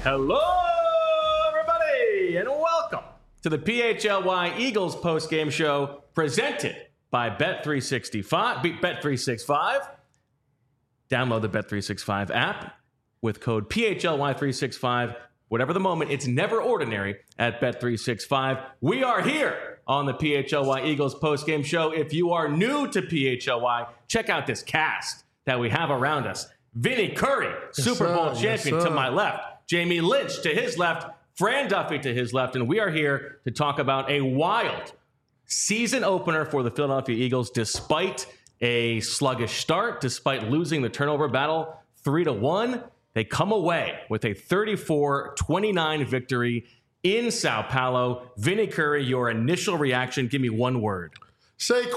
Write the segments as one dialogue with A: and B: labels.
A: Hello, everybody, and welcome to the PHLY Eagles postgame show presented by Bet365. Download the Bet365 app with code PHLY365. Whatever the moment, it's never ordinary at Bet365. We are here on the PHLY Eagles postgame show. If you are new to PHLY, check out this cast that we have around us. Vinny Curry, Super Bowl champion to my left. Jamie Lynch to his left. Fran Duffy to his left. And we are here to talk about a wild season opener for the Philadelphia Eagles, despite a sluggish start, despite losing the turnover battle 3-1. They come away with a 34-29 victory in Sao Paulo. Vinny Curry, your initial reaction, give me one word.
B: Saquon!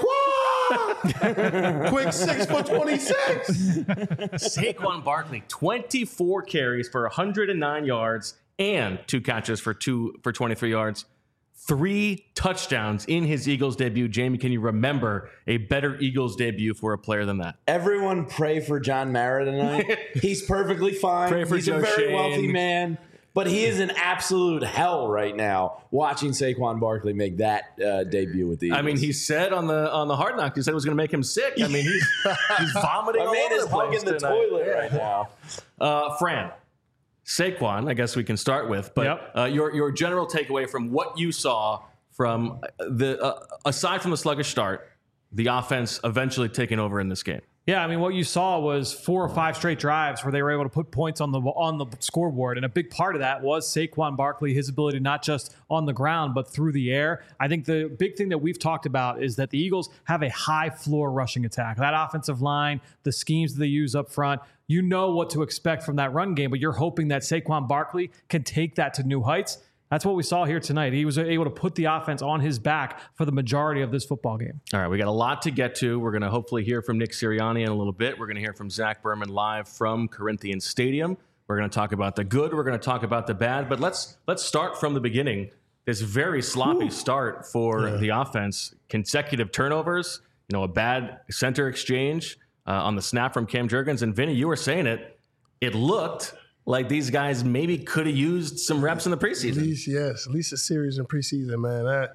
B: Quick 6 for 26.
A: Saquon Barkley, 24 carries for 109 yards and 2 catches for 23 yards. 3 touchdowns in his Eagles debut. Jamie, can you remember a better Eagles debut for a player than that?
C: Everyone pray for John Mara tonight. He's perfectly fine.
A: Pray for
C: He's
A: Joe
C: a very
A: Shane.
C: wealthy man. But he is in absolute hell right now watching Saquon Barkley make that debut with the Eagles.
A: I mean, he said on the Hard Knock, he said it was going to make him sick. I mean, he's vomiting all
C: My man
A: over
C: is
A: the place
C: hugging the
A: tonight.
C: toilet right now.
A: Fran, Saquon, I guess we can start with, but your general takeaway from what you saw from aside from the sluggish start, the offense eventually taking over in this game.
D: Yeah, I mean, what you saw was 4 or 5 straight drives where they were able to put points on the scoreboard, and a big part of that was Saquon Barkley, his ability not just on the ground but through the air. I think the big thing that we've talked about is that the Eagles have a high floor rushing attack. That offensive line, the schemes that they use up front, you know what to expect from that run game, but you're hoping that Saquon Barkley can take that to new heights. That's what we saw here tonight. He was able to put the offense on his back for the majority of this football game.
A: All right, we got a lot to get to. We're going to hopefully hear from Nick Sirianni in a little bit. We're going to hear from Zach Berman live from Corinthians Stadium. We're going to talk about the good. We're going to talk about the bad. But let's start from the beginning. This very sloppy start for the offense. Consecutive turnovers, a bad center exchange on the snap from Cam Jurgens. And Vinny, you were saying it. It looked like these guys maybe could have used some reps in the preseason.
B: At least a series in preseason, man.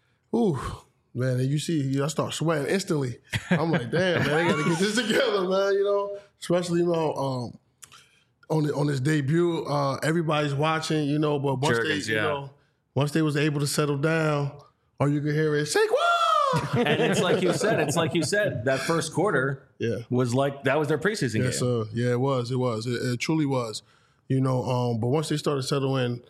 B: Man, you see, I start sweating instantly. I'm like, damn, man, they got to get this together, man, especially, on this debut. Everybody's watching, but once
A: Jurgens,
B: once they was able to settle down, all you could hear is, Saquon!
A: And it's like you said, that first quarter was like, that was their preseason game.
B: Yes, sir. Yeah, it was. It truly was. But once they started settling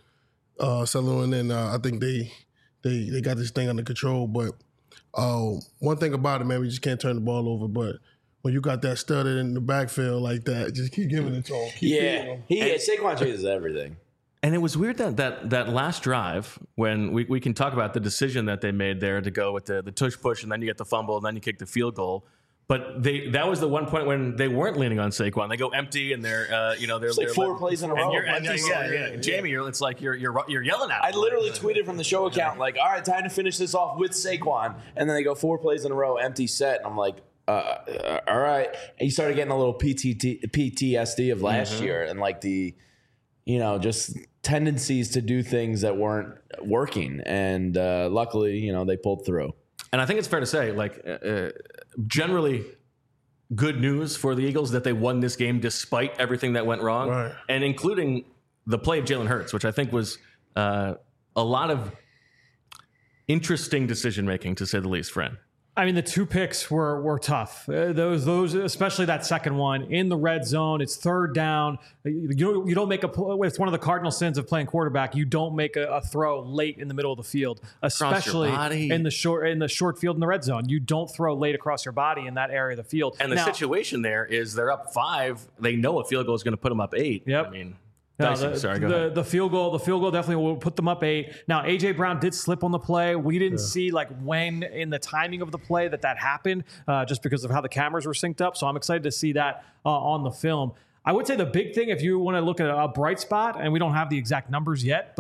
B: in, I think they got this thing under control. But one thing about it, man, we just can't turn the ball over. But when you got that studded in the backfield like that, just keep giving it to him.
C: Saquon chases everything.
A: And it was weird that last drive when we can talk about the decision that they made there to go with the tush push and then you get the fumble and then you kick the field goal. But that was the one point when they weren't leaning on Saquon. They go empty and they're
C: it's like 4 plays in a row.
A: Jamie, it's like you're yelling at him.
C: I literally tweeted from the show account like, all right, time to finish this off with Saquon, and then they go 4 plays in a row, empty set, and I'm like, all right. And you started getting a little PTSD of last year and like the, just tendencies to do things that weren't working, and luckily, they pulled through.
A: And I think it's fair to say, generally good news for the Eagles that they won this game despite everything that went wrong,
B: right,
A: and including the play of Jalen Hurts, which I think was a lot of interesting decision-making, to say the least, Fran.
D: I mean, the 2 picks were tough. Those, especially that second one in the red zone. It's third down. You don't make it's one of the cardinal sins of playing quarterback. You don't make a throw late in the middle of the field, especially in the short field in the red zone. You don't throw late across your body in that area of the field.
A: And the situation there is they're up 5. They know a field goal is going to put them up 8.
D: Yep.
A: I mean,
D: No,
A: the
D: field goal definitely will put them up 8. Now, A.J. Brown did slip on the play. We didn't see when in the timing of the play that happened, just because of how the cameras were synced up. So I'm excited to see that on the film. I would say the big thing, if you want to look at a bright spot, and we don't have the exact numbers yet, but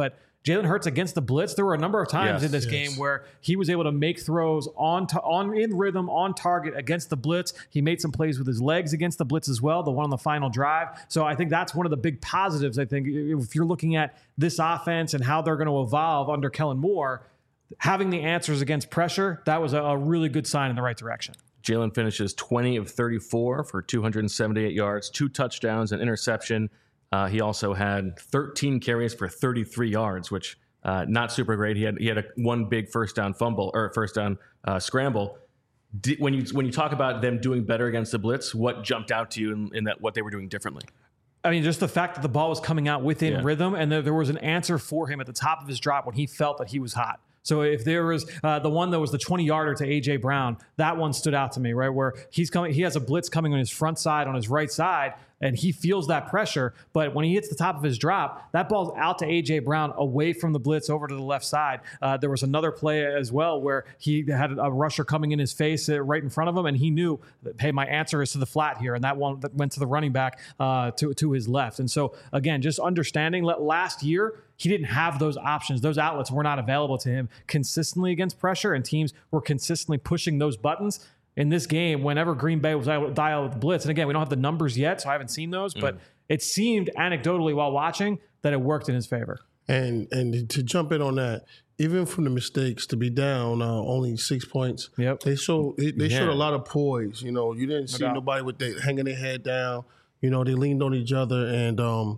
D: Jalen Hurts against the blitz, there were a number of times in this game where he was able to make throws in rhythm, on target against the blitz. He made some plays with his legs against the blitz as well, the one on the final drive. So I think that's one of the big positives, I think, if you're looking at this offense and how they're going to evolve under Kellen Moore, having the answers against pressure, that was a really good sign in the right direction.
A: Jalen finishes 20 of 34 for 278 yards, 2 touchdowns, an interception. He also had 13 carries for 33 yards, which not super great. He had one big first down scramble. When you talk about them doing better against the blitz, what jumped out to you in that what they were doing differently?
D: I mean, just the fact that the ball was coming out within rhythm, and there was an answer for him at the top of his drop when he felt that he was hot. So if there was the one that was the 20-yarder to A.J. Brown, that one stood out to me, right? Where he has a blitz coming on his front side, on his right side, and he feels that pressure. But when he hits the top of his drop, that ball's out to A.J. Brown, away from the blitz, over to the left side. There was another play as well where he had a rusher coming in his face right in front of him, and he knew, hey, my answer is to the flat here, and that one that went to the running back to his left. And so, again, just understanding that last year, he didn't have those options. Those outlets were not available to him consistently against pressure, and teams were consistently pushing those buttons. In this game, whenever Green Bay was able to dial with the blitz, and again, we don't have the numbers yet, so I haven't seen those, but it seemed anecdotally while watching that it worked in his favor.
B: And to jump in on that, even from the mistakes, to be down only 6 points, they showed a lot of poise. You know, you didn't see nobody with hanging their head down. You know, they leaned on each other, and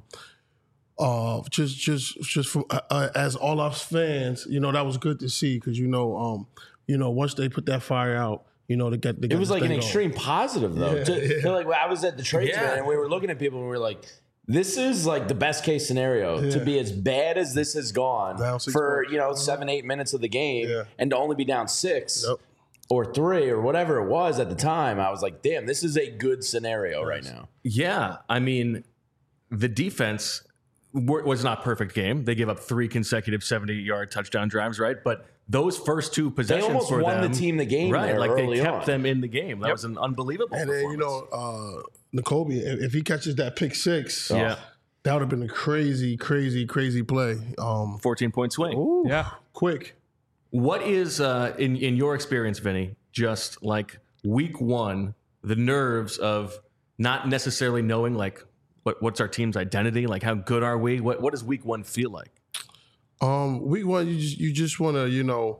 B: just from as all us fans, you know, that was good to see, because once they put that fire out, you know, it was
C: like an extreme positive, though. Like, I was at the tradesman and we were looking at people and we were like, this is like the best case scenario to be as bad as this has gone for 7-8 minutes of the game and to only be down 6 or 3 or whatever it was at the time. I was like, damn, this is a good scenario right now.
A: Yeah, I mean, the defense was not perfect game. They gave up 3 consecutive 70-yard touchdown drives, right? But those first 2 possessions,
C: they almost won the team the game,
A: right? Like they kept
C: on.
A: them in the game. That was an unbelievable.
B: And then Nakobe, if he catches that pick 6, that would have been a crazy play.
A: 14-point swing.
B: Ooh, quick.
A: What is in your experience, Vinny? Just like week 1, the nerves of not necessarily knowing like what's our team's identity, like how good are we? What does week 1 feel like?
B: Week 1, you just want to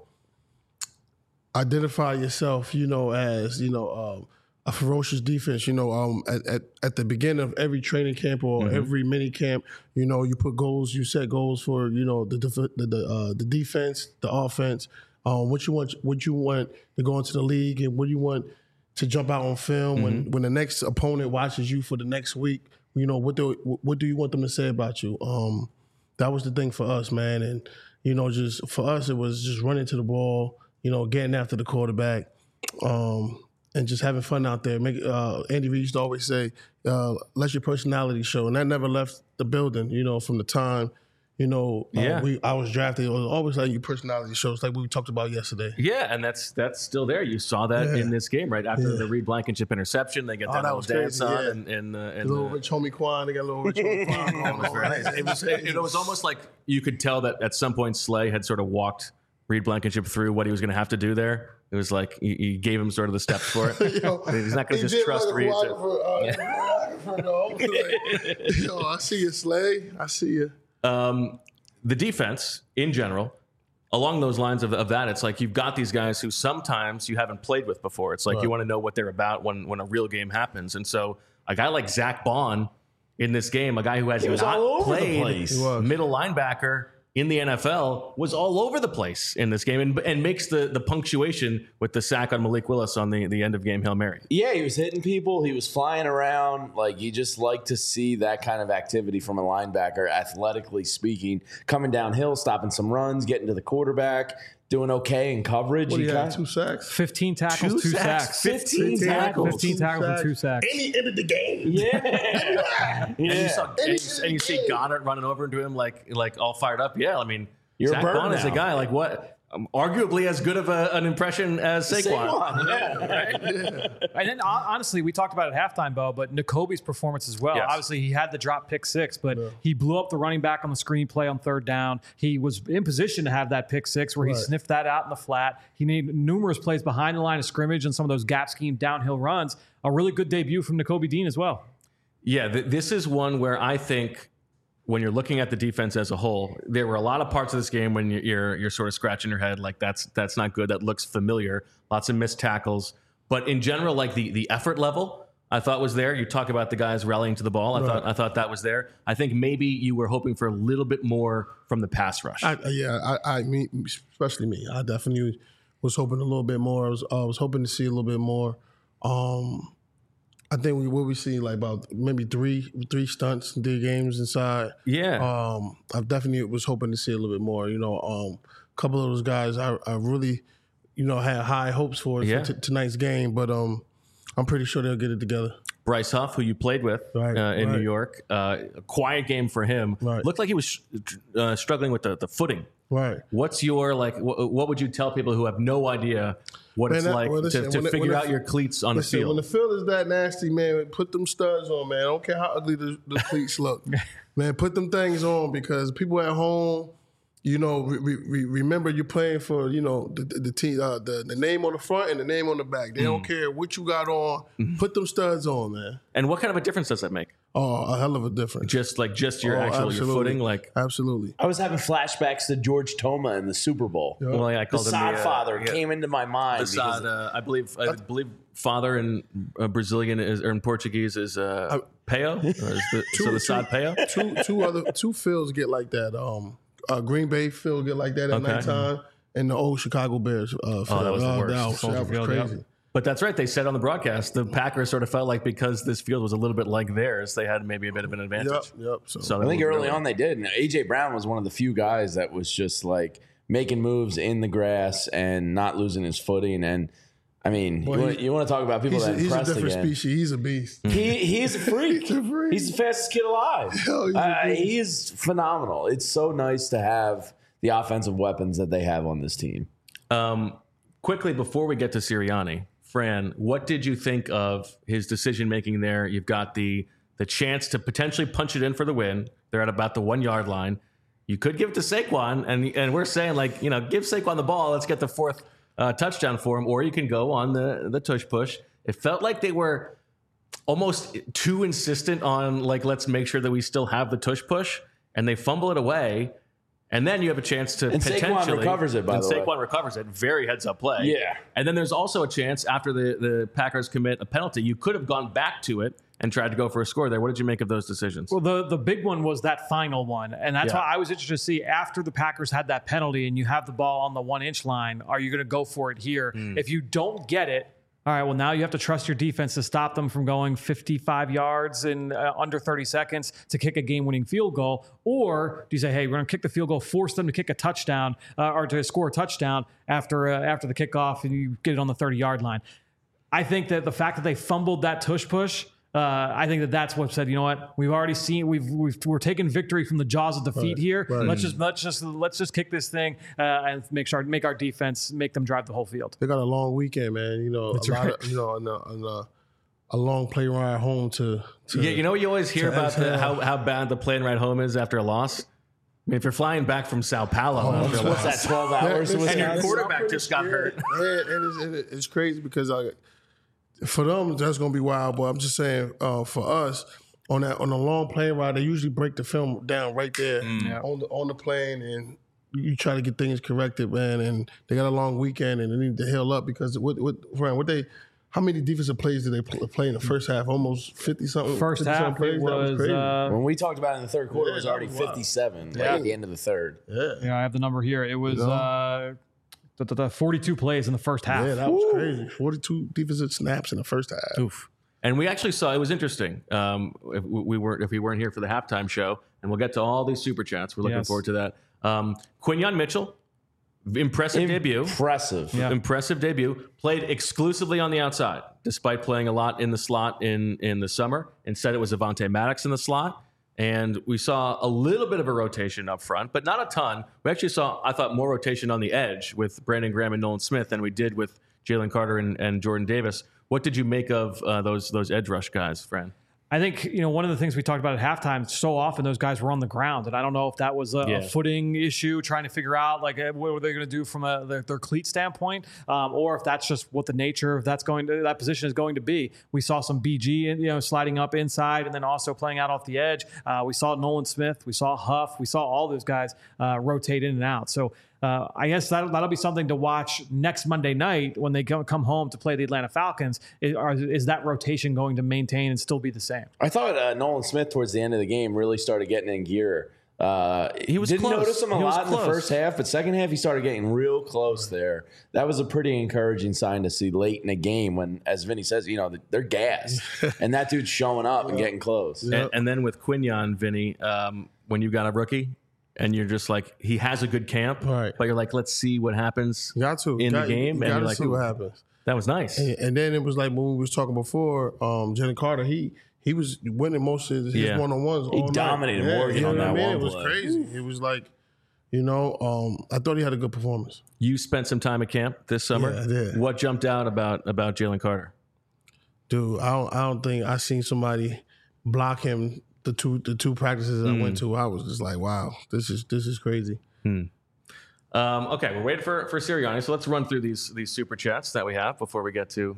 B: identify yourself, as a ferocious defense. At the beginning of every training camp or every mini camp, you put goals, you set goals for the defense, the offense. What you want to go into the league, and what you want to jump out on film when the next opponent watches you for the next week. What do you want them to say about you? That was the thing for us, man. And, just for us, it was just running to the ball, getting after the quarterback, and just having fun out there. Andy Reid used to always say, let your personality show. And that never left the building, from the time, I was drafted. It was always like your personality shows, like we talked about yesterday.
A: Yeah, and that's still there. You saw that in this game, right? After the Reed Blankenship interception, they get that little dance on. And
B: little Rich Homie Quan, they got a little Rich Homie Quan.
A: It was almost like you could tell that at some point Slay had sort of walked Reed Blankenship through what he was going to have to do there. It was like he gave him sort of the steps for it. He's not going to just trust Reed.
B: I see you, Slay. I see you.
A: The defense in general, along those lines of that, it's like you've got these guys who sometimes you haven't played with before. It's like you want to know what they're about when a real game happens. And so a guy like Zach Bond in this game, a guy who has not played middle linebacker in the NFL, was all over the place in this game and makes the punctuation with the sack on Malik Willis on the end of game Hail Mary.
C: Yeah, he was hitting people. He was flying around. Like, you just like to see that kind of activity from a linebacker, athletically speaking, coming downhill, stopping some runs, getting to the quarterback, doing okay in coverage.
B: What do you have, 2 sacks?
D: 15 tackles, 2 sacks.
C: 15 tackles.
D: 15 tackles and 2 sacks.
B: And he ended the game.
C: Yeah.
A: And you see Goddard running over into him like all fired up. Yeah, I mean,
C: You're
A: Zach
C: a bird
A: Bond is a
C: now.
A: guy like what arguably as good of an impression as Saquon.
D: And then honestly, we talked about it at halftime, Bo, but Nakobe's performance as well.
A: Yes.
D: Obviously, he had the drop pick 6, but he blew up the running back on the screen play on 3rd down. He was in position to have that pick 6 where he sniffed that out in the flat. He made numerous plays behind the line of scrimmage and some of those gap scheme downhill runs. A really good debut from Nakobe Dean as well.
A: Yeah, this is one where I think when you're looking at the defense as a whole, there were a lot of parts of this game when you're sort of scratching your head like that's not good. That looks familiar. Lots of missed tackles, but in general, like the effort level, I thought was there. You talk about the guys rallying to the ball. I thought that was there. I think maybe you were hoping for a little bit more from the pass rush.
B: I mean, especially me. I definitely was hoping a little bit more. I was hoping to see a little bit more. I think what we see like about maybe three stunts, 3 games inside.
A: Yeah.
B: I definitely was hoping to see a little bit more. A couple of those guys I really, had high hopes for tonight's game, but I'm pretty sure they'll get it together.
A: Bryce Huff, who you played with in New York, a quiet game for him.
B: Right.
A: Looked like he was struggling with the footing.
B: Right.
A: What's your what would you tell people who have no idea what it's like to figure out your cleats on the field?
B: When the field is that nasty, man, put them studs on, man. I don't care how ugly the cleats look. Man, put them things on because people at home, remember you're playing for, the team, the name on the front and the name on the back. They don't care what you got on. Put them studs on, man.
A: And what kind of a difference does that make?
B: Oh, a hell of a difference.
A: Just your your footing, like
B: absolutely.
C: I was having flashbacks to George Toma in the Super Bowl.
B: Yep.
A: Well, I
C: The
A: called him
C: Sod father came into my mind.
A: the Sod, I believe father in Brazilian or in Portuguese is Peo. The Sod Peo.
B: Two fields get like that. Green Bay field get like that at nighttime, and the old Chicago Bears field.
A: that was the worst.
B: That was crazy.
A: But that's right. They said on the broadcast the Packers sort of felt like because this field was a little bit like theirs, they had maybe a bit of an advantage.
B: Yep.
C: So I think early on they did. And A.J. Brown was one of the few guys that was just like making moves in the grass and not losing his footing. And I mean, you want to talk about people that impressed again.
B: He's a different species. He's a beast.
C: He's a freak. He's the fastest kid alive. He is phenomenal. It's so nice to have the offensive weapons that they have on this team.
A: Quickly, before we get to Sirianni, Fran, what did you think of his decision-making there? You've got the chance to potentially punch it in for the win. They're at about the 1-yard line. You could give it to Saquon, and we're saying, give Saquon the ball. Let's get the 4th touchdown for him. Or you can go on the tush push. It felt like they were almost too insistent on, let's make sure that we still have the tush push, and they fumble it away. And then you have a chance to potentially...
C: Saquon recovers it, by the way.
A: Saquon recovers it. Very heads-up play.
C: Yeah.
A: And then there's also a chance after the Packers commit a penalty, you could have gone back to it and tried to go for a score there. What did you make of those decisions?
D: Well, the big one was that final one. And that's why I was interested to see after the Packers had that penalty and you have the ball on the 1-inch line, are you going to go for it here? If you don't get it, all right, well, now you have to trust your defense to stop them from going 55 yards in under 30 seconds to kick a game-winning field goal. Or do you say, hey, we're going to kick the field goal, force them to kick a touchdown or to score a touchdown after the kickoff and you get it on the 30-yard line? I think that the fact that they fumbled that tush push, I think that's what said, you know what, we've already seen, we're taking victory from the jaws of defeat here. Right. Let's just kick this thing and make our defense, make them drive the whole field.
B: They got a long weekend, man. A long plane ride home to
A: you always hear about how bad the plane ride home is after a loss. I mean, if you're flying back from Sao Paulo,
C: what's that, 12 hours?
A: And your quarterback just got hurt.
B: And it's crazy because for them, that's going to be wild. But I'm just saying, for us, on a long plane ride, they usually break the film down right there on the plane, and you try to get things corrected, man. And they got a long weekend, and they need to heal up because how many defensive plays did they play in the first half? Almost 50-something.
D: First half
B: plays.
D: was
B: crazy.
C: When we talked about it in the third quarter, it was already 57 at the end of the third.
D: Yeah, I have the number here. It was 42 plays in the first half.
B: Yeah, that was crazy. 42 defensive snaps in the first half.
A: Oof. And we actually saw, it was interesting. If we weren't here for the halftime show, and we'll get to all these super chats. We're looking forward to that. Quinyon Mitchell, impressive debut. Impressive debut. Played exclusively on the outside, despite playing a lot in the slot in the summer. Instead, it was Avonte Maddox in the slot. And we saw a little bit of a rotation up front, but not a ton. We actually saw, I thought, more rotation on the edge with Brandon Graham and Nolan Smith than we did with Jalen Carter and Jordan Davis. What did you make of those edge rush guys, Fran?
D: I think, one of the things we talked about at halftime, so often those guys were on the ground. And I don't know if that was a footing issue, trying to figure out what were they going to do from their cleat standpoint, or if that's just what the nature of that position is going to be. We saw some BG, sliding up inside and then also playing out off the edge. We saw Nolan Smith. We saw Huff. We saw all those guys rotate in and out. So I guess that'll be something to watch next Monday night when they come home to play the Atlanta Falcons. Is that rotation going to maintain and still be the same?
C: I thought Nolan Smith towards the end of the game really started getting in gear.
A: He was
C: didn't
A: close.
C: notice him a
A: He was
C: lot in the
A: close.
C: first half, but second half he started getting real close there. That was a pretty encouraging sign to see late in the game when, as Vinny says, they're gassed, and that dude's showing up and getting close.
A: And then with Quinyon, Vinny, when you got a rookie and you're just like, he has a good camp,
B: Right.
A: but you're like, let's see what happens
B: You got to
A: in the
B: You
A: game.
B: got
A: And you're
B: to
A: like,
B: see what happens.
A: that was nice.
B: And then it was like when we was talking before, Jalen Carter, he was winning most of his one-on-ones.
C: He
B: all
C: dominated
B: night.
C: Morgan
B: you know
C: on
B: what I
C: that
B: mean?
C: one
B: It was
C: play.
B: crazy. It was like, I thought he had a good performance.
A: You spent some time at camp this summer.
B: Yeah, I did.
A: What jumped out about Jalen Carter?
B: Dude, I don't think I seen somebody block him the two practices I went to. I was just like, wow, this is crazy.
A: Okay, we're waiting for Sirianni, so let's run through these super chats that we have before we get to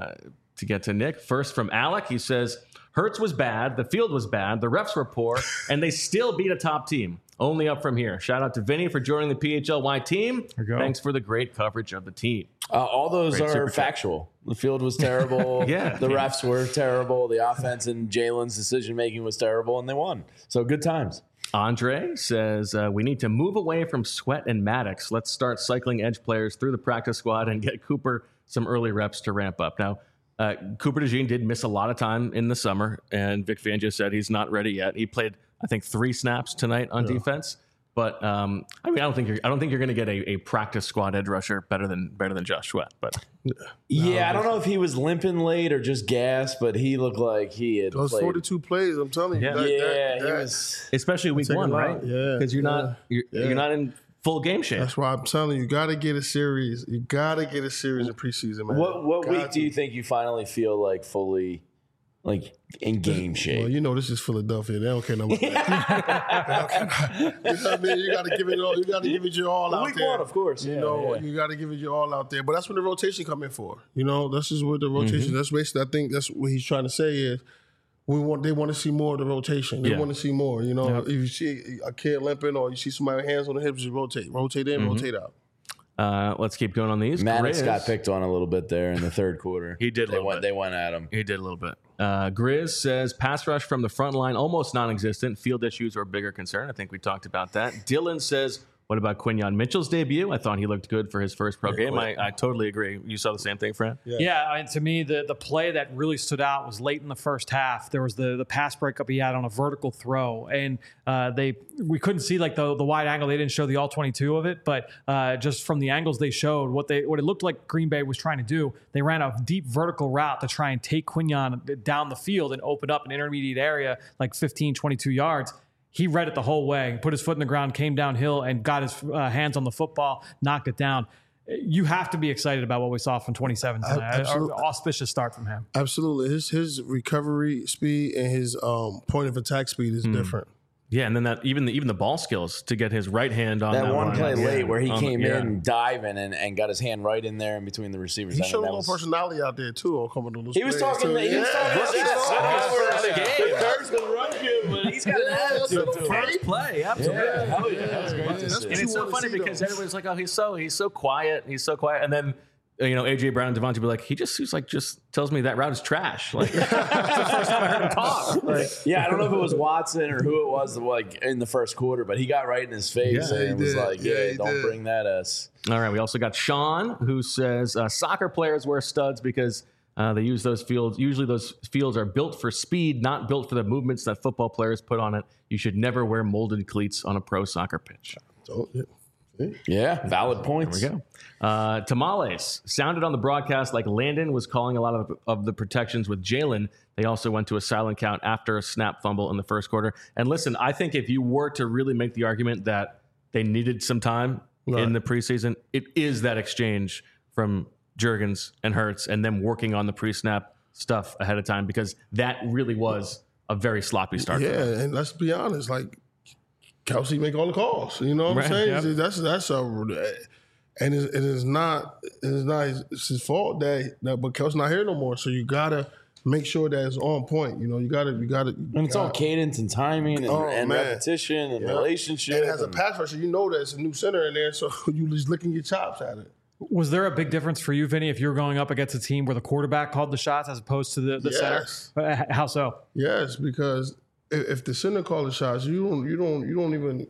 A: Nick. First from Alec, he says, Hurts was bad, the field was bad, the refs were poor, and they still beat a top team. Only up from here. Shout out to Vinny for joining the PHLY team.
D: There you go.
A: Thanks for the great coverage of the team.
C: All those
A: Great super
C: are
A: chat.
C: factual. The field was terrible.
A: Yeah.
C: The refs were terrible. The offense and Jalen's decision making was terrible, and they won. So good times.
A: Andre says, we need to move away from Sweat and Maddox. Let's start cycling edge players through the practice squad and get Cooper some early reps to ramp up. Now, Cooper DeJean did miss a lot of time in the summer, and Vic Fangio said he's not ready yet. He played, I think, 3 snaps tonight on defense. But I don't think you're going to get a practice squad edge rusher better than Josh Sweat. But
C: Yeah, I don't know if he was limping late or just gas, but he looked like he had
B: Those
C: played.
B: 42 plays, I'm telling you.
A: Yeah.
C: He was.
A: especially week
B: take a
A: 1,
B: lot.
A: right?
B: Yeah,
A: because you're not in full game shape.
B: That's why I'm telling you, you got to get a series. You got to get a series in preseason, man.
C: What
B: Got
C: week
B: to.
C: do you think you finally feel like fully in game shape?
B: Well, this is Philadelphia. They don't care no more. You know what I mean? You got to give it all. You got to give it your all out
C: Week
B: there.
C: 1, of course.
B: You
C: Yeah,
B: know,
C: yeah.
B: you got to give it your all out there. But that's what the rotation come in for. This is what the rotation. That's basically. I think that's what he's trying to say is they want to see more of the rotation. They
A: Yeah.
B: want to see more. If you see a kid limping or you see somebody with hands on the hips, just rotate in, rotate out.
A: Let's keep going on these.
C: Maddox
A: Grizz-
C: got picked on a little bit there in the third quarter.
A: He did a
C: They
A: little
C: went.
A: bit.
C: They went at him.
A: He did a little bit. Grizz says pass rush from the front line almost non-existent. Field issues are a bigger concern. I think we talked about that. Dylan says, what about Quinyon Mitchell's debut? I thought he looked good for his first pro game. I totally agree. You saw the same thing, Fran?
D: Yeah, to me, the play that really stood out was late in the first half. There was the pass breakup he had on a vertical throw, and we couldn't see the wide angle. They didn't show the all 22 of it, but just from the angles they showed, what it looked like Green Bay was trying to do. They ran a deep vertical route to try and take Quinyon down the field and open up an intermediate area like 15, 22 yards. He read it the whole way, put his foot in the ground, came downhill, and got his hands on the football, knocked it down. You have to be excited about what we saw from 27 tonight.
B: Absolutely.
D: Auspicious start from him.
B: Absolutely, his recovery speed and his point of attack speed is different.
A: Yeah, and then that even the ball skills to get his right hand on
C: That one
A: line.
C: play
A: Yeah.
C: late where he came
A: yeah.
C: in diving and got his hand right in there in between the receivers.
B: He
C: I mean,
B: showed a
C: that
B: little
C: was-
B: personality out there too. On coming to those
C: He was
B: plays,
C: talking.
B: too.
C: He was talking.
A: Rookie
C: Yeah,
A: first
C: yeah.
A: game.
C: The Kirk's gonna run you, but he's got an attitude to him.
A: First play, absolutely.
C: Yeah, hell yeah, that was great to
B: That's
C: see.
B: what
A: And it's
B: you
A: so
B: wanna
A: funny
B: see,
A: because
B: though.
A: everybody's like, oh, he's so quiet, and then AJ Brown and Devontae be like, he just tells me that route is trash. Like that's the first time I heard him talk. Like,
C: Yeah, I don't know if it was Watson or who it was in the first quarter, but he got right in his face
B: Yeah, he
C: and was
B: did.
C: like,
B: Yeah,
C: "Yeah,
B: he
C: don't
B: did.
C: bring that us."
A: all right, we also got Sean who says soccer players wear studs because they use those fields. Usually those fields are built for speed, not built for the movements that football players put on it. You should never wear molded cleats on a pro soccer pitch.
B: So, yeah.
C: Yeah, valid points.
A: There we go. Tamales sounded on the broadcast like Landon was calling a lot of the protections with Jalen. They also went to a silent count after a snap fumble in the first quarter. And listen, I think if you were to really make the argument that they needed some time in the preseason, it is that exchange from Juergens and Hurts and them working on the pre-snap stuff ahead of time, because that really was a very sloppy start.
B: Yeah, and let's be honest, like Kelsey make all the calls. You know what I'm saying? Yep. That's and it is not his fault that but Kelsey's not here no more. So you gotta make sure that it's on point. You know, you gotta.
C: And it's all cadence and timing and repetition and relationship.
B: And as a pass rusher, you know there's a new center in there, so you just licking your chops at it.
D: Was there a big difference for you, Vinny, if you were going up against a team where the quarterback called the shots as opposed to the center? How so?
B: Yes, because if the center called the shots, you don't even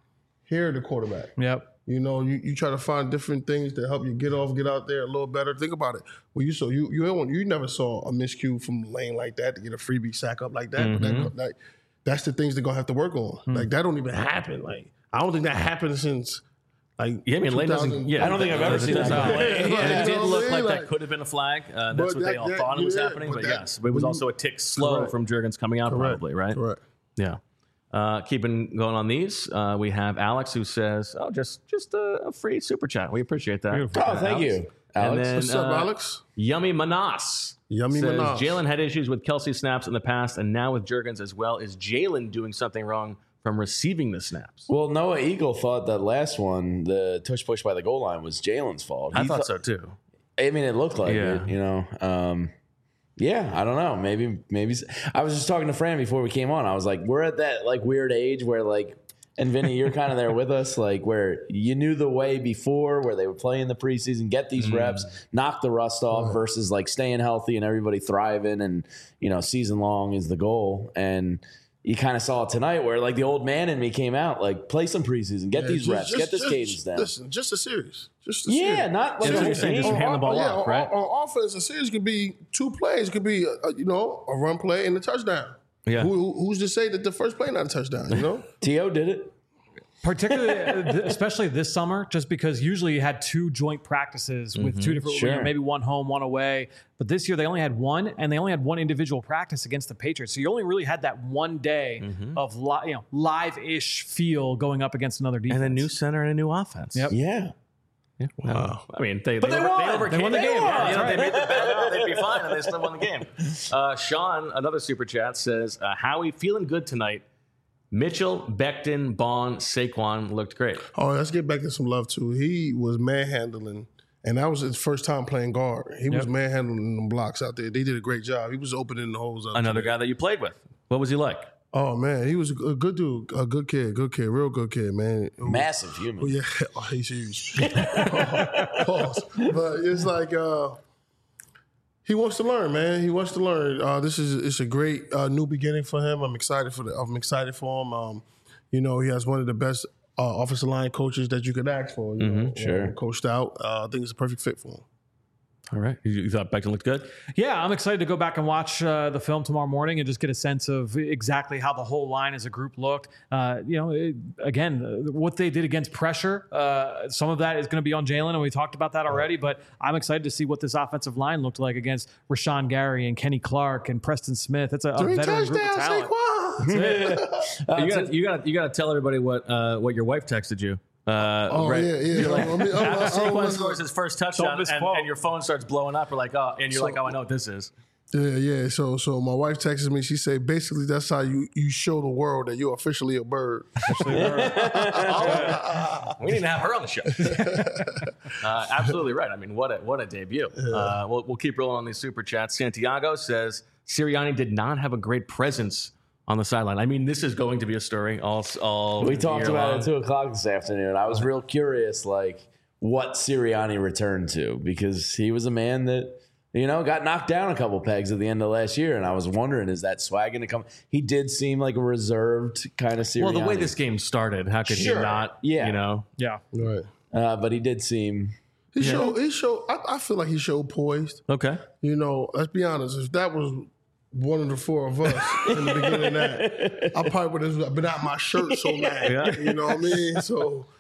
B: hear the quarterback.
D: Yep.
B: You know, you try to find different things to help you get out there a little better. Think about it. Well, you never saw a miscue from Lane like that to get a freebie sack up like that.
A: Mm-hmm.
B: But that's the things they're gonna have to work on. Like that don't even happen. Like I don't think that happened since. Like,
A: yeah, I mean, Lane doesn't. Yeah,
C: I don't think I've ever seen that.
A: And it did look like that could have been a flag. That's what they all thought it was happening. But yes, it was also a tick slow from Juergens coming out, probably, right?
B: Correct.
A: Yeah. Keeping going on these, we have Alex who says, "Oh, just a free super chat. We appreciate that."
C: Beautiful. Oh, thank you, Alex.
A: And then,
B: what's up, Alex?
A: Yummy Manas.
B: Yummy
A: says,
B: Manas.
A: Jalen had issues with Kelsey snaps in the past, and now with Juergens as well. Is Jalen doing something wrong from receiving the snaps?
C: Well, Noah Eagle thought that last one, the tush push by the goal line, was Jalen's fault.
A: I thought so too.
C: I mean, it looked like it, you know. Yeah, I don't know. Maybe. I was just talking to Fran before we came on. I was like, we're at that like weird age where like, and Vinny, you're kind of there with us, like where you knew the way before, where they would play in the preseason, get these reps, knock the rust off, versus like staying healthy and everybody thriving, and you know, season long is the goal. And you kind of saw it tonight where like the old man in me came out, like play some preseason, get these reps, get this cadence down.
B: Listen, just a series.
C: Yeah, not like
A: you're saying, just hand the ball off, right?
B: On offense, a series could be 2 plays. It could be a run play and a touchdown.
A: Yeah.
B: Who's to say that the first play not a touchdown? You know,
C: T.O. did it.
D: Particularly, especially this summer, just because usually you had 2 joint practices with 2 different, you know, maybe one home, one away. But this year they only had 1, and they only had 1 individual practice against the Patriots. So you only really had that 1 day of live-ish feel going up against another defense.
A: And a new center and a new offense.
D: Yep.
C: Yeah.
A: Wow. I mean, they
C: won.
A: They won the game.
C: Won.
A: Yeah, they made the bet. They'd be fine, and they still won the game. Sean, another super chat, says, Howie, feeling good tonight. Mitchell, Becton, Bond, Saquon looked great.
B: Oh, let's get back to some love, too. He was manhandling, and that was his first time playing guard. He was manhandling them blocks out there. They did a great job. He was opening the holes up.
A: Another guy that you played with. What was he like?
B: Oh, man, he was a good dude, a good kid, real good kid, man.
C: Massive human.
B: Oh, yeah, he's huge. Pause. But it's like he wants to learn, man. He wants to learn. It's a great new beginning for him. I'm excited for him. You know, he has one of the best offensive line coaches that you could ask for. You know,
C: sure.
B: Coached out. I think it's a perfect fit for him.
A: All right. You thought Becton looked good?
D: Yeah, I'm excited to go back and watch the film tomorrow morning and just get a sense of exactly how the whole line as a group looked. What they did against pressure, some of that is going to be on Jalen, and we talked about that already, but I'm excited to see what this offensive line looked like against Rashawn Gary and Kenny Clark and Preston Smith. It's a veteran group of talent.
A: You got to tell everybody what your wife texted you. Right.
B: Yeah.
A: You're like, after Saquon scores his first touchdown and your phone starts blowing up, you're like, I know what this is.
B: Yeah. So my wife texted me. She said, basically, that's how you show the world that you're officially a bird.
A: We need to have her on the show. Absolutely right. I mean, what a debut. We'll keep rolling on these super chats. Santiago says Sirianni did not have a great presence on the sideline. I mean, this is going to be a story all
C: we talked about
A: long.
C: it at 2:00 this afternoon. I was real curious, like, what Sirianni returned to, because he was a man that, you know, got knocked down a couple pegs at the end of last year, and I was wondering, is that swag going to come? He did seem like a reserved kind of Sirianni.
A: Well, the way this game started, how could he not, you know?
D: Yeah.
B: Right.
C: But he did seem...
B: He showed, I feel like he showed poised.
A: Okay.
B: You know, let's be honest, if that was one of the 4 of us in the beginning of that, I probably would have been out my shirt so mad. You know what I mean? So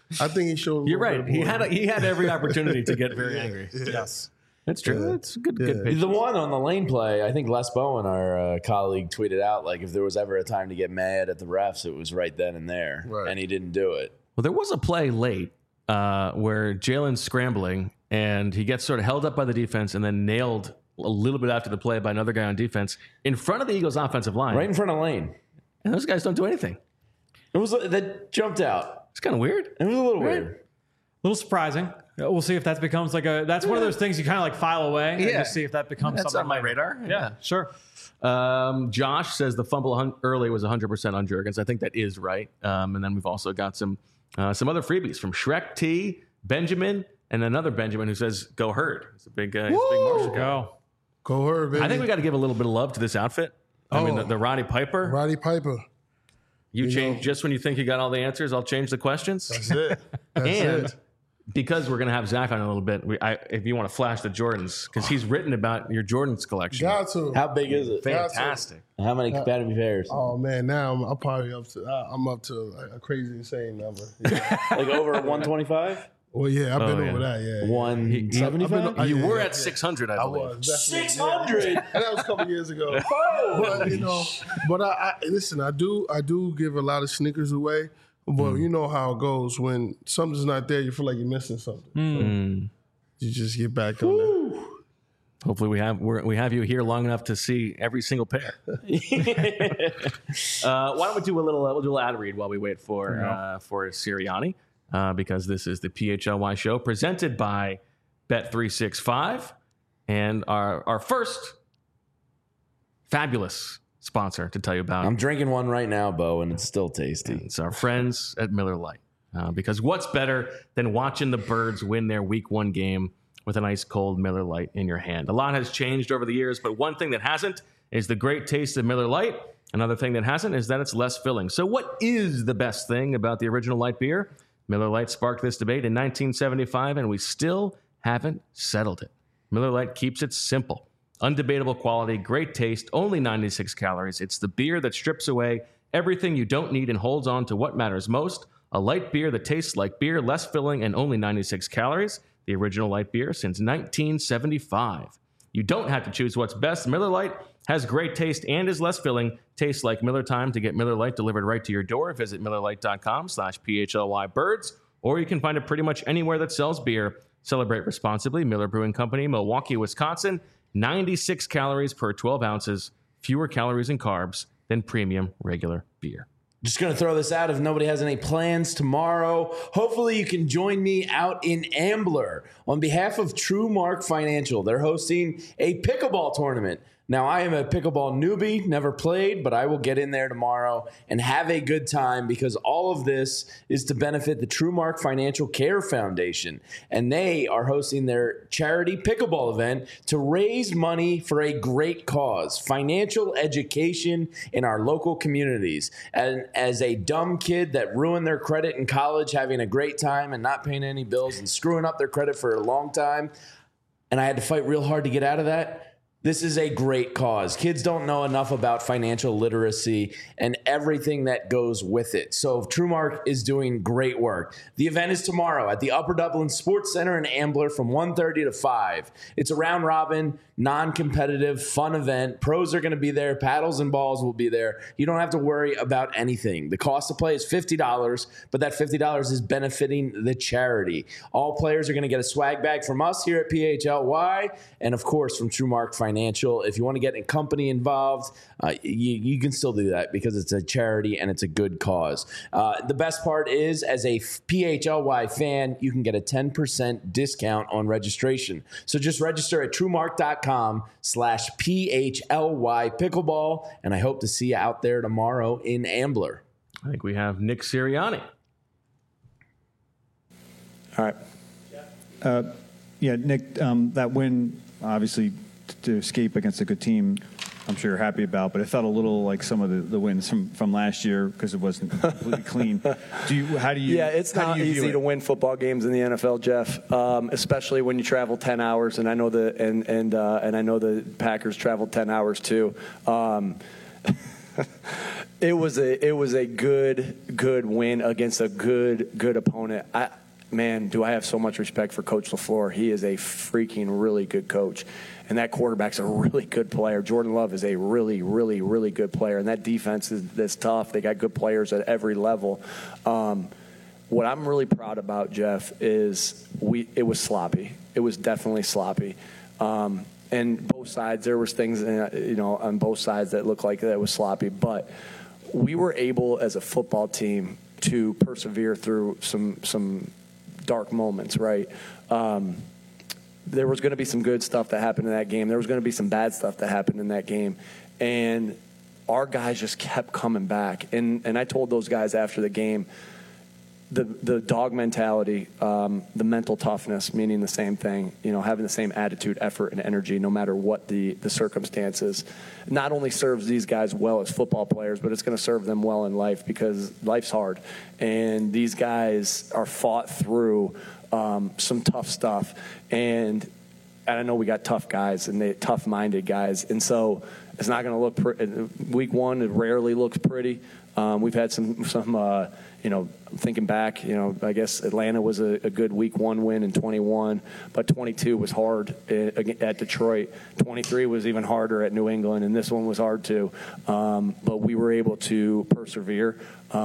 B: I think he showed.
A: You're right. He had every opportunity to get very angry.
D: Yes.
A: That's true. That's good patience.
C: The one on the lane play, I think Les Bowen, our colleague, tweeted out, like, if there was ever a time to get mad at the refs, it was right then and there.
B: Right.
C: And he didn't do it.
A: Well, there was a play late where Jalen's scrambling and he gets sort of held up by the defense and then nailed a little bit after the play by another guy on defense in front of the Eagles offensive line.
C: Right in front of Lane.
A: And those guys don't do anything.
C: It was that jumped out.
A: It's kind of weird.
C: It was a little weird.
D: A little surprising. We'll see if that becomes that's one of those things you kind of like file away and just see if that becomes
A: That's
D: something
A: on my
D: later.
A: radar.
D: Yeah, sure.
A: Josh says the fumble early was 100% on Juergens. I think that is right. And then we've also got some other freebies from Shrek T, Benjamin, and another Benjamin who says, go Herd. It's a big Marshall guy.
B: Go Herd, baby.
A: I think we got to give a little bit of love to this outfit. I mean, the Roddy Piper.
B: Roddy Piper.
A: You change just when you think you got all the answers. I'll change the questions.
B: That's it. That's
A: And
B: it.
A: because we're going to have Zach on in a little bit, if you want to flash the Jordans, because he's written about your Jordans collection.
B: Got to.
C: How big is it?
A: Fantastic.
C: How many compatible pairs?
B: Oh man, now I'm probably up to a crazy insane number. Yeah.
C: Like over 125?
B: Well, yeah, I've been
A: yeah.
B: over that. Yeah,
C: 175?
A: You were
B: yeah,
A: at 600, I
B: I
A: believe.
B: was definitely,
C: 600?
B: yeah. And that was a couple years ago. But I listen. I do give a lot of sneakers away. But you know how it goes when something's not there. You feel like you're missing something. So you just get back on that.
A: Hopefully we have you here long enough to see every single pair. Why don't we do a little ad read while we wait for Sirianni, because this is the PHLY show presented by Bet365 and our first fabulous sponsor to tell you about.
C: I'm drinking one right now, Bo, and it's still tasty.
A: It's our friends at Miller Lite. Because what's better than watching the Birds win their Week 1 game with an ice cold Miller Lite in your hand? A lot has changed over the years, but one thing that hasn't is the great taste of Miller Lite. Another thing that hasn't is that it's less filling. So what is the best thing about the original light beer? Miller Lite sparked this debate in 1975, and we still haven't settled it. Miller Lite keeps it simple. Undebatable quality, great taste, only 96 calories. It's the beer that strips away everything you don't need and holds on to what matters most. A light beer that tastes like beer, less filling, and only 96 calories. The original light beer since 1975. You don't have to choose what's best. Miller Lite has great taste and is less filling. Tastes like Miller time. To get Miller Lite delivered right to your door, visit MillerLite.com/PHLYBirds, or you can find it pretty much anywhere that sells beer. Celebrate responsibly. Miller Brewing Company, Milwaukee, Wisconsin. 96 calories per 12 ounces. Fewer calories and carbs than premium regular beer.
C: Just going to throw this out if nobody has any plans tomorrow. Hopefully you can join me out in Ambler. On behalf of TrueMark Financial, they're hosting a pickleball tournament. Now, I am a pickleball newbie, never played, but I will get in there tomorrow and have a good time because all of this is to benefit the TrueMark Financial Care Foundation. And they are hosting their charity pickleball event to raise money for a great cause, financial education in our local communities. And as a dumb kid that ruined their credit in college, having a great time and not paying any bills and screwing up their credit for a long time, and I had to fight real hard to get out of that, this is a great cause. Kids don't know enough about financial literacy and everything that goes with it. So TrueMark is doing great work. The event is tomorrow at the Upper Dublin Sports Center in Ambler from 1:30 to 5. It's a round robin, non-competitive, fun event. Pros are going to be there. Paddles and balls will be there. You don't have to worry about anything. The cost to play is $50, but that $50 is benefiting the charity. All players are going to get a swag bag from us here at PHLY and, of course, from TrueMark Financial. If you want to get a company involved, you can still do that because it's a charity and it's a good cause. The best part is, as a PHLY fan, you can get a 10% discount on registration. So just register at TrueMark.com/PHLY pickleball, and I hope to see you out there tomorrow in Ambler.
A: I think we have Nick Sirianni.
E: All right. Nick, that win, obviously, to escape against a good team, I'm sure you're happy about, but it felt a little like some of the wins from last year because it wasn't completely clean.
F: Yeah, it's not easy to win football games in the NFL, Jeff, especially when you travel 10 hours, and I know and I know the Packers traveled 10 hours too. It was a good win against a good opponent. Man, do I have so much respect for Coach LaFleur. He is a freaking really good coach. And that quarterback's a really good player. Jordan Love is a really, really, really good player. And that defense is tough. They got good players at every level. What I'm really proud about, Jeff, is it was sloppy. It was definitely sloppy. And both sides, there was things, on both sides that looked like that was sloppy. But we were able, as a football team, to persevere through some dark moments, right? There was going to be some good stuff that happened in that game. There was going to be some bad stuff that happened in that game. And our guys just kept coming back. And I told those guys after the game, the dog mentality, the mental toughness, meaning the same thing, having the same attitude, effort, and energy no matter what the circumstances, not only serves these guys well as football players, but it's going to serve them well in life because life's hard. And these guys are fought through some tough stuff. And I know we got tough guys and tough-minded guys. And so it's not going to look pretty. Week one, it rarely looks pretty. We've had some thinking back, I guess Atlanta was a good week one win in 21, but 22 was hard at Detroit. 23 was even harder at New England, and this one was hard too. But we were able to persevere,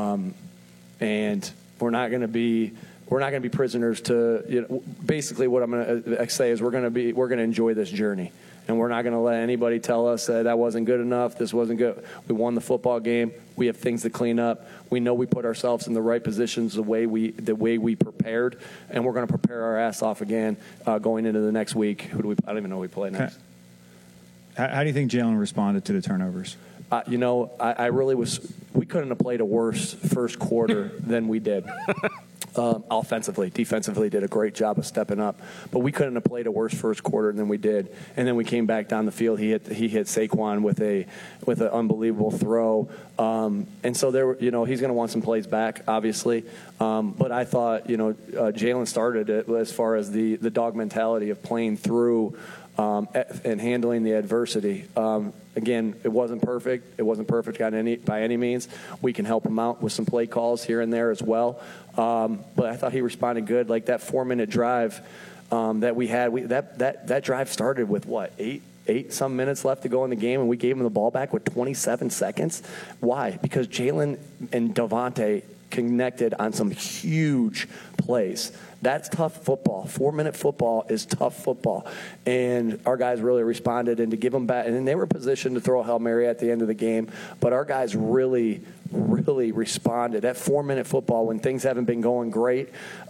F: and we're not going to be prisoners to. Basically, what I'm going to say is we're going to enjoy this journey. And we're not going to let anybody tell us that wasn't good enough, this wasn't good. We won the football game. We have things to clean up. We know we put ourselves in the right positions the way we prepared, and we're going to prepare our ass off again going into the next week. I don't even know who we play next.
E: How do you think Jalen responded to the turnovers?
F: I really was. We couldn't have played a worse first quarter than we did. Offensively, defensively did a great job of stepping up, but we couldn't have played a worse first quarter than we did. And then we came back down the field. He hit Saquon with an unbelievable throw, and so there were, he's going to want some plays back, obviously. But I thought, Jalen started it as far as the dog mentality of playing through and handling the adversity. Again, it wasn't perfect. It wasn't perfect by any means. We can help him out with some play calls here and there as well. But I thought he responded good. Like that 4-minute drive that we had, that drive started with what, eight some minutes left to go in the game, and we gave him the ball back with 27 seconds. Why? Because Jalen and Devontae connected on some huge plays. That's tough football. 4-minute football is tough football. And our guys really responded, and to give them back. And then they were positioned to throw a Hail Mary at the end of the game. But our guys really, really responded. That 4-minute football, when things haven't been going great,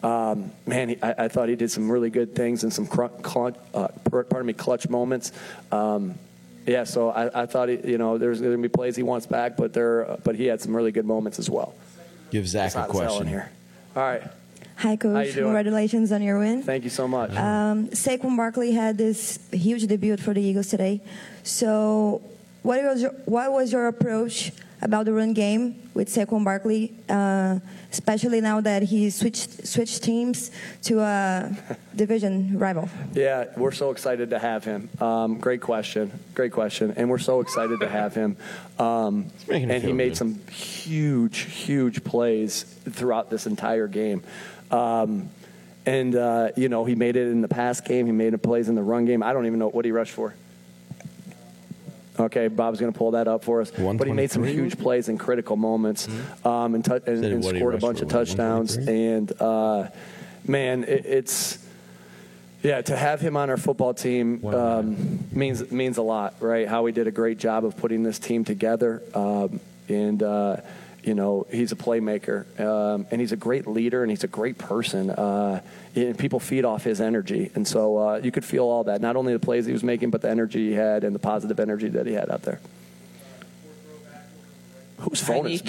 F: I thought he did some really good things and some clutch moments. So I thought, there's going to be plays he wants back, but he had some really good moments as well.
C: Give Zach a question
F: here. All right.
G: Hi, Coach.
F: How you doing?
G: Congratulations on your win.
F: Thank you so much.
G: Saquon Barkley had this huge debut for the Eagles today. So what was your approach about the run game with Saquon Barkley, especially now that he switched teams to a division rival?
F: Yeah, we're so excited to have him. Great question. And we're so excited to have him. And he made some huge plays throughout this entire game. He made it in the pass game. He made plays in the run game. I don't even know what he rushed for. Okay, Bob's going to pull that up for us. But he made some huge plays in critical moments and scored a bunch of touchdowns. And, to have him on our football team means a lot, right? Howie did a great job of putting this team together. He's a playmaker, and he's a great leader, and he's a great person. And people feed off his energy. And so you could feel all that, not only the plays he was making, but the energy he had and the positive energy that he had out there. Whose phone is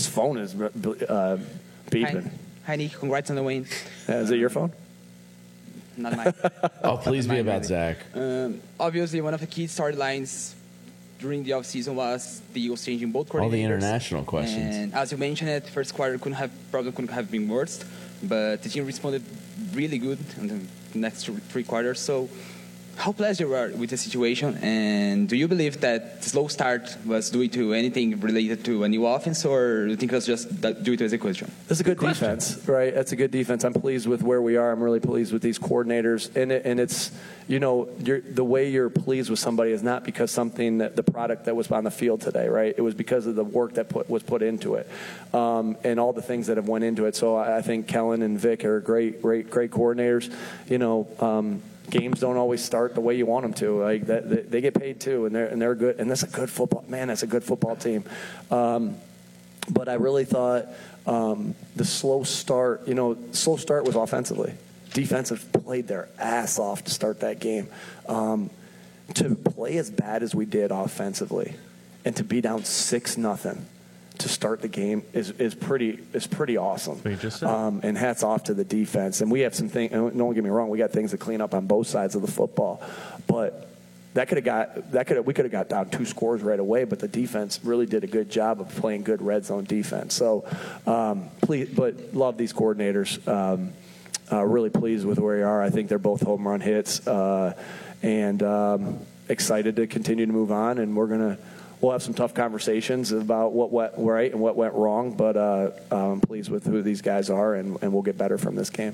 F: beeping?
H: Hi, Nick. Congrats on the win.
F: Is it your phone?
H: Not mine.
C: Oh, please be about Zach.
H: Obviously, one of the key storylines during the offseason was the Eagles changing both coordinators.
C: All the international questions.
H: And as you mentioned, the first quarter couldn't have been worse, but the team responded really good in the next three quarters. So how pleased you are with the situation, and do you believe that the slow start was due to anything related to a new offense, or do you think it was just due to execution?
F: It's a good defense, right? That's a good defense. I'm pleased with where we are. I'm really pleased with these coordinators, and it's the way you're pleased with somebody is not because the product that was on the field today, right? It was because of the work that was put into it, and all the things that have went into it. So I think Kellen and Vic are great coordinators. Games don't always start the way you want them to. Like they get paid too, and they're good. And that's a good football. Man, that's a good football team. But I really thought the slow start. Slow start was offensively. Defensive played their ass off to start that game. To play as bad as we did offensively, and to be down 6-0. To start the game is pretty awesome. And hats off to the defense. And we have some things. Don't get me wrong, we got things to clean up on both sides of the football. But we could have got down 2 scores right away. But the defense really did a good job of playing good red zone defense. So but love these coordinators. Really pleased with where we are. I think they're both home run hits, and excited to continue to move on. And we'll have some tough conversations about what went right and what went wrong, but I'm pleased with who these guys are, and we'll get better from this game.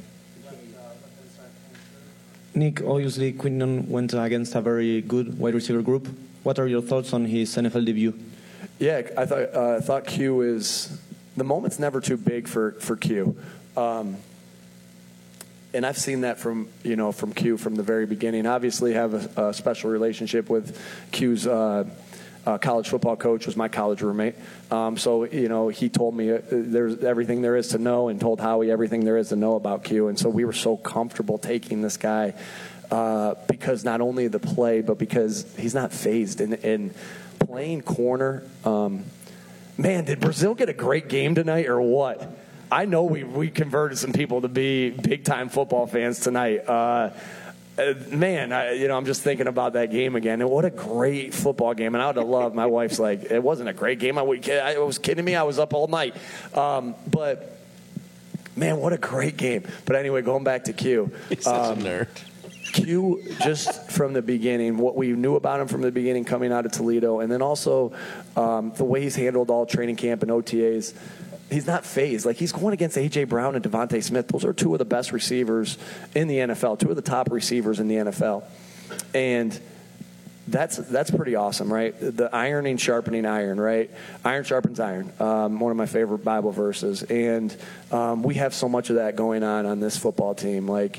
I: Nick, obviously Quinton went against a very good wide receiver group. What are your thoughts on his NFL debut?
F: Yeah, I thought Q is – the moment's never too big for Q. And I've seen that from Q from the very beginning. Obviously have a special relationship with Q's college football coach, was my college roommate. So he told me there's everything there is to know, and told Howie everything there is to know about Q. And so we were so comfortable taking this guy because not only the play, but because he's not phased. And playing corner, man, did Brazil get a great game tonight or what? I know we converted some people to be big-time football fans tonight. Man, I'm just thinking about that game again. And what a great football game. And I would have loved, my wife's like, it wasn't a great game. I was kidding me. I was up all night. But, man, what a great game. But anyway, going back to Q.
C: He's such a nerd.
F: Q, just from the beginning, what we knew about him from the beginning coming out of Toledo, and then also the way he's handled all training camp and OTAs, he's not phased. Like, he's going against A.J. Brown and Devontae Smith. Those are 2 of the best receivers in the NFL, 2 of the top receivers in the NFL. And that's pretty awesome, right? The ironing, sharpening iron, right? Iron sharpens iron. One of my favorite Bible verses. And we have so much of that going on this football team. Like,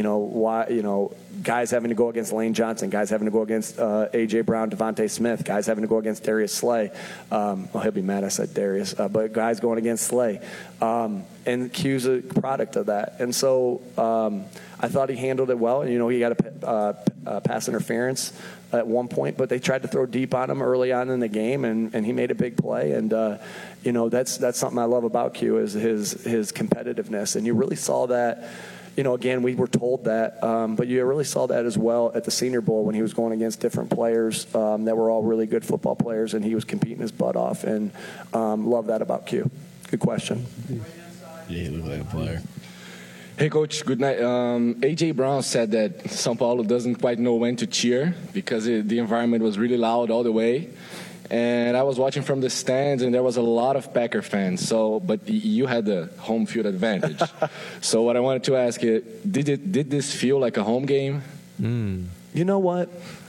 F: guys having to go against Lane Johnson, guys having to go against A.J. Brown, Devontae Smith, guys having to go against Darius Slay. He'll be mad I said Darius, but guys going against Slay. And Q's a product of that. And so I thought he handled it well. He got a pass interference at one point, but they tried to throw deep on him early on in the game, and he made a big play. And that's something I love about Q, is his competitiveness. And you really saw that. Again, we were told that, but you really saw that as well at the Senior Bowl when he was going against different players that were all really good football players, and he was competing his butt off. And love that about Q. Good question.
C: Yeah, he looked like a player.
J: Hey, Coach, good night. A.J. Brown said that São Paulo doesn't quite know when to cheer because the environment was really loud all the way. And I was watching from the stands, and there was a lot of Packer fans. But you had the home field advantage. So what I wanted to ask you, did this feel like a home game?
F: You know what?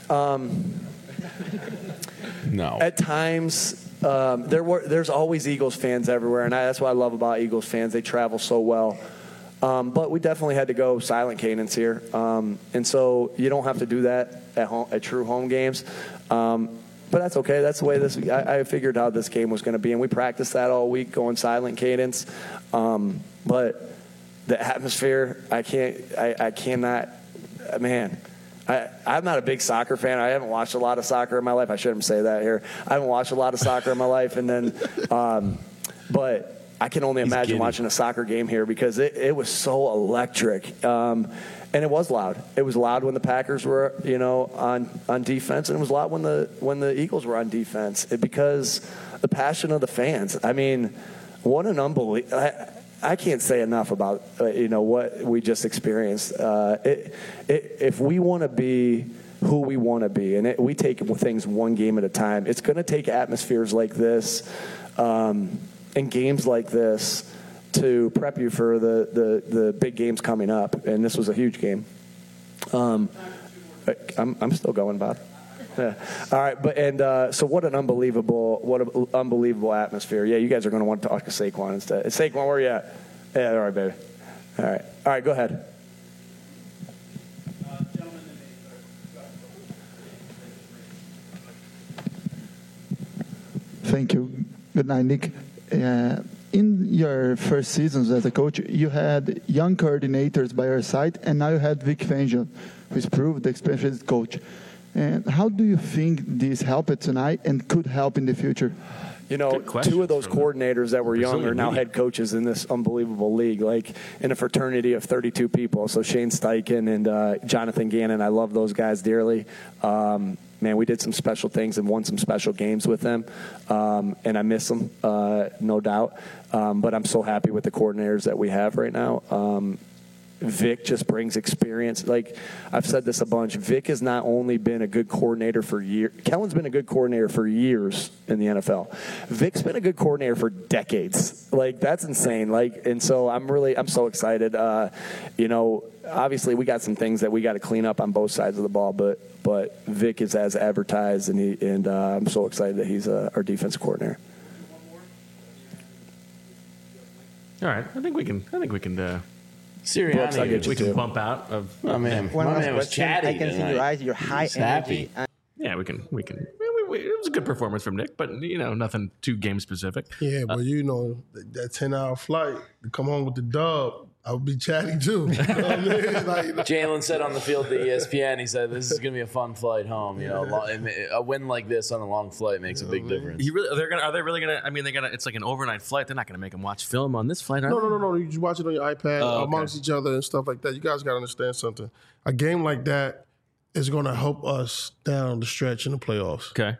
C: No.
F: At times, there's always Eagles fans everywhere, and that's what I love about Eagles fans. They travel so well. But we definitely had to go silent cadence here. And so you don't have to do that at true home games. But that's okay. That's the way I figured out this game was going to be. And we practiced that all week, going silent cadence. But the atmosphere, I cannot, man. I'm not a big soccer fan. I haven't watched a lot of soccer in my life. I shouldn't say that here. I haven't watched a lot of soccer in my life. And then, but I can only imagine watching a soccer game here because it was so electric. And it was loud. It was loud when the Packers were, on defense, and it was loud when the Eagles were on defense because the passion of the fans. I mean, what an unbelievable. I can't say enough about what we just experienced. If we want to be who we want to be, and we take things one game at a time, it's going to take atmospheres like this and games like this to prep you for the big games coming up. And this was a huge game. I'm still going, Bob. Yeah. All right, so what an unbelievable atmosphere. Yeah, you guys are going to want to talk to Saquon instead. Saquon, where are you at? Yeah, all right, baby. All right, go ahead.
K: Thank you. Good night, Nick. In your first seasons as a coach, you had young coordinators by your side, and now you had Vic Fangio, who's proved the experienced coach. And how do you think this helped tonight and could help in the future?
F: Two of those coordinators that were young are now head coaches in this unbelievable league, like in a fraternity of 32 people. So Shane Steichen and Jonathan Gannon, I love those guys dearly. Man, we did some special things and won some special games with them, and I miss them, no doubt. But I'm so happy with the coordinators that we have right now. Vic just brings experience. Like I've said this a bunch, Vic has not only been a good coordinator for years. Kellen's been a good coordinator for years in the NFL. Vic's been a good coordinator for decades. Like that's insane. And so I'm so excited. Obviously we got some things that we got to clean up on both sides of the ball, but Vic is as advertised, and I'm so excited that he's our defensive coordinator.
A: All right, I think we can.
C: Sirianni,
A: we can bump out of.
C: Oh man,
I: One
C: my
I: last
C: man was
I: question.
C: chatty.
I: I can see your eyes. Your high energy.
A: Yeah, we can. It was a good performance from Nick, but nothing too game specific.
B: Yeah, but that 10-hour flight to come home with the dub, I would be chatty too. You know what I mean?
C: Jalen said on the field to ESPN, he said, "This is going to be a fun flight home." A win like this on a long flight makes a big difference.
A: Are they really gonna? I mean, it's like an overnight flight. They're not gonna make them watch film on this flight, are they?
B: No. You just watch it on your iPad amongst each other and stuff like that. You guys got to understand something. A game like that is going to help us down the stretch in the playoffs.
A: Okay.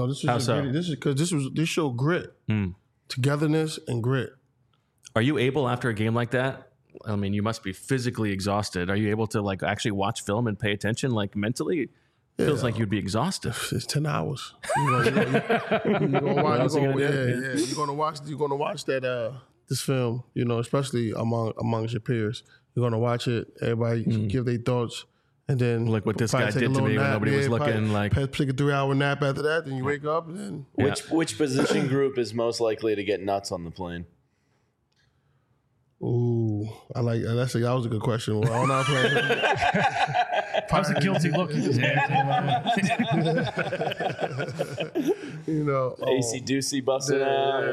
B: This showed grit, togetherness, and grit.
A: Are you able after a game like that? I mean, you must be physically exhausted. Are you able to actually watch film and pay attention mentally? It feels like you'd be exhausted.
B: It's 10 hours. You're gonna watch that this film. Especially amongst your peers. You're gonna watch it. Everybody give their thoughts. And then
A: like what this guy did to me when nobody was looking.
B: Take a 3-hour nap after that. Then you wake up. And then
C: which position group is most likely to get nuts on the plane?
B: Ooh, I like that. That was a good question. Well, I'm not playing.
D: That was a guilty look.
C: AC Ducey busting out.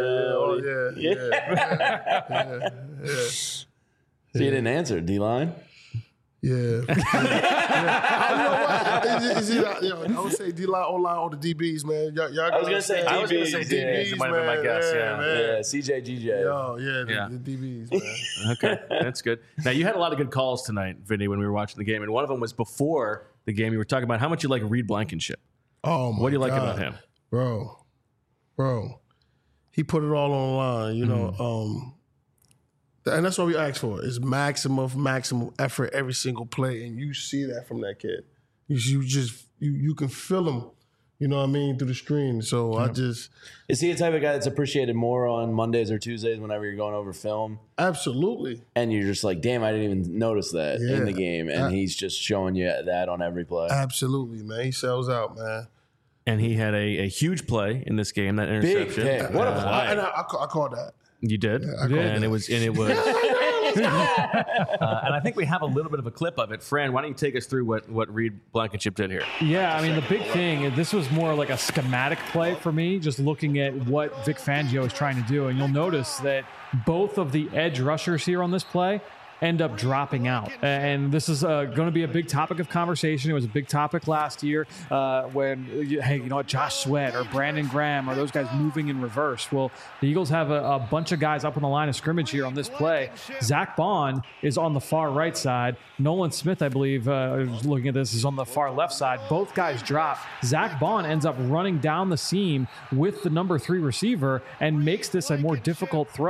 B: Yeah.
C: So you didn't answer, D-line?
B: Yeah. I would say D-line, O-line, or the DBs, man.
C: I was going to say
A: DBs, might have been my guess,
C: yeah. CJ, GJ.
B: The DBs, man.
A: Okay, that's good. Now, you had a lot of good calls tonight, Vinny, when we were watching the game, and one of them was before the game. You were talking about how much you like Reed Blankenship.
B: Oh, my
A: What do you like
B: God.
A: about him?
B: Bro. He put it all on the line, and that's what we ask for is maximum effort every single play. And you see that from that kid. You can feel him, you know what I mean, through the screen. So
C: Is he the type of guy that's appreciated more on Mondays or Tuesdays whenever you're going over film?
B: Absolutely.
C: And you're just like, damn, I didn't even notice that in the game. And he's just showing you that on every play.
B: Absolutely, man. He sells out, man.
A: And he had a huge play in this game, that interception.
C: Big pick. What a play.
B: I called that.
A: You did?
B: Yeah, I called that.
A: It was and I think we have a little bit of a clip of it. Fran, why don't you take us through what Reed Blankenship did here?
D: Yeah, I mean, the big thing, this was more like a schematic play for me, just looking at what Vic Fangio is trying to do. And you'll notice that both of the edge rushers here on this play end up dropping out. And this is going to be a big topic of conversation. It was a big topic last year when, Josh Sweat or Brandon Graham or those guys moving in reverse. Well, the Eagles have a bunch of guys up on the line of scrimmage here on this play. Zach Bond is on the far right side. Nolan Smith, I believe, looking at this, is on the far left side. Both guys drop. Zach Bond ends up running down the seam with the number 3 receiver and makes this a more difficult throw.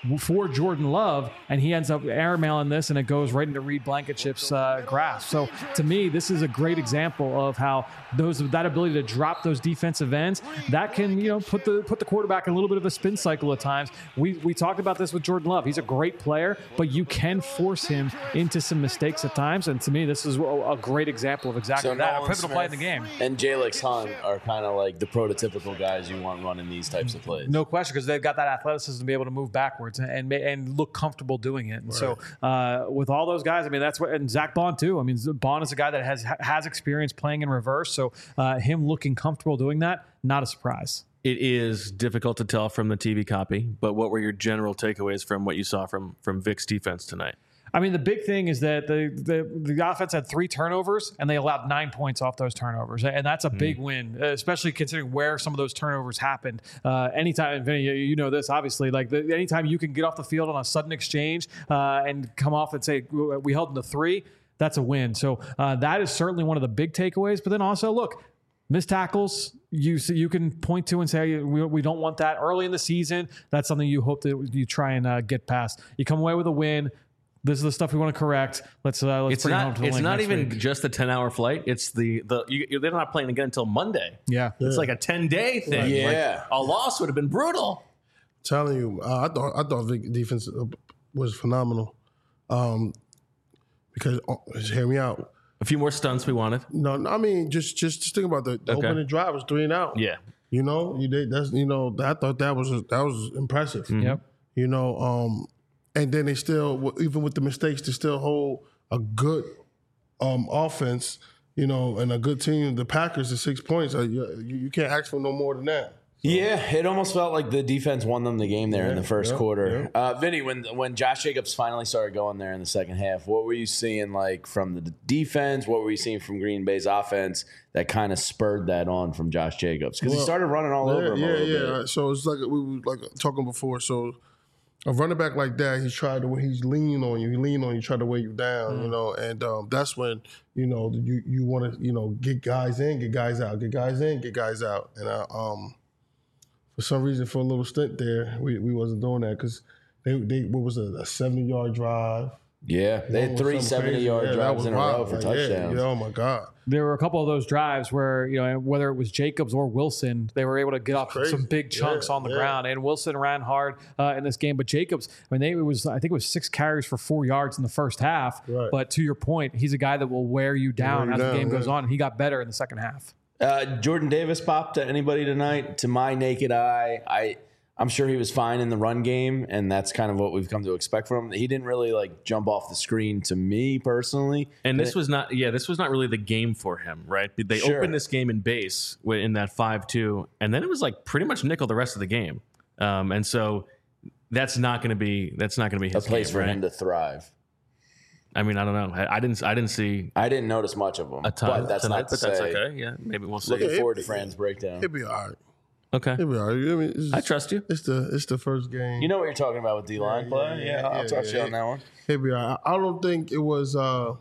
D: for Jordan Love, and he ends up airmailing this, and it goes right into Reed Blankenship's grasp. So to me, this is a great example of how that ability to drop those defensive ends, that can, put the quarterback in a little bit of a spin cycle at times. We talked about this with Jordan Love. He's a great player, but you can force him into some mistakes at times. And to me, this is a great example of exactly that. A pivotal play in the game.
C: And Jalix Hunt are kind of like the prototypical guys you want running these types of plays.
D: No question, because they've got that athleticism to be able to move backwards and look comfortable doing it. Right. So with all those guys, I mean, that's what, and Zach Bond too. I mean, Bond is a guy that has experience playing in reverse. So him looking comfortable doing that, not a surprise.
A: It is difficult to tell from the TV copy, but what were your general takeaways from what you saw from Vic's defense tonight?
D: I mean, the big thing is that the offense had 3 turnovers, and they allowed 9 points off those turnovers. And that's a big win, especially considering where some of those turnovers happened. Anytime, Vinny, you know this, obviously, anytime you can get off the field on a sudden exchange and come off and say, we held them to 3, that's a win. So that is certainly one of the big takeaways. But then also, look, missed tackles, you can point to and say, we don't want that early in the season. That's something you hope that you try and get past. You come away with a win. This is the stuff we want to correct. Let's bring it home to the
A: It's
D: link
A: not
D: next
A: even
D: week.
A: just a 10-hour flight. It's they're not playing again until Monday.
D: Yeah.
A: It's like a 10-day thing.
C: Yeah.
A: Like, a loss would have been brutal.
B: Telling you, I thought Vic defense was phenomenal. Because hear me out.
A: A few more stunts we wanted.
B: No, I mean just think about the opening drive was 3 and out.
A: Yeah.
B: I thought that was impressive.
A: Mm-hmm.
D: Yep.
B: And then they still, even with the mistakes, they still hold a good offense, and a good team. The Packers at 6 points. You can't ask for no more than that.
C: Yeah, it almost felt like the defense won them the game there in the first quarter.
B: Yeah.
C: Vinny, when Josh Jacobs finally started going there in the second half, what were you seeing from the defense? What were you seeing from Green Bay's offense that kind of spurred that on from Josh Jacobs? Because he started running all over him a little bit.
B: So it's like we were talking before. So a running back like that, he's leaning on you. He lean on you, try to weigh you down, and that's when, you want to, get guys in, get guys out, get guys in, get guys out. And for some reason, for a little stint there, we wasn't doing that because they what was it, a 70-yard drive?
C: Yeah, they had 3 70-yard drives in a row for touchdowns.
B: Oh my God.
D: There were a couple of those drives where, whether it was Jacobs or Wilson, they were able to get off some big chunks on the ground. And Wilson ran hard in this game. But Jacobs, I think it was 6 carries for 4 yards in the first half. Right. But to your point, he's a guy that will wear you down as the game goes on. And he got better in the second half.
C: Jordan Davis popped to anybody tonight. To my naked eye, I'm sure he was fine in the run game, and that's kind of what we've come to expect from him. He didn't really jump off the screen to me personally.
A: And this was not really the game for him, right? They opened this game in base in that 5-2, and then it was pretty much nickel the rest of the game. And so that's not going to be his
C: a place
A: game,
C: for
A: right?
C: him to thrive.
A: I mean, I don't know. I didn't
C: notice much of him.
A: A ton
C: but that's
A: tonight,
C: not to
A: but that's
C: say.
A: okay. Yeah, maybe we'll see.
C: Looking forward to Fran's breakdown.
B: It'll be all right.
A: Okay.
B: It'll be all right. I mean,
A: I trust you.
B: It's the first game.
C: You know what you're talking about with D-line play? Yeah, I'll trust you on that one.
B: It'll be all right. I don't think it was one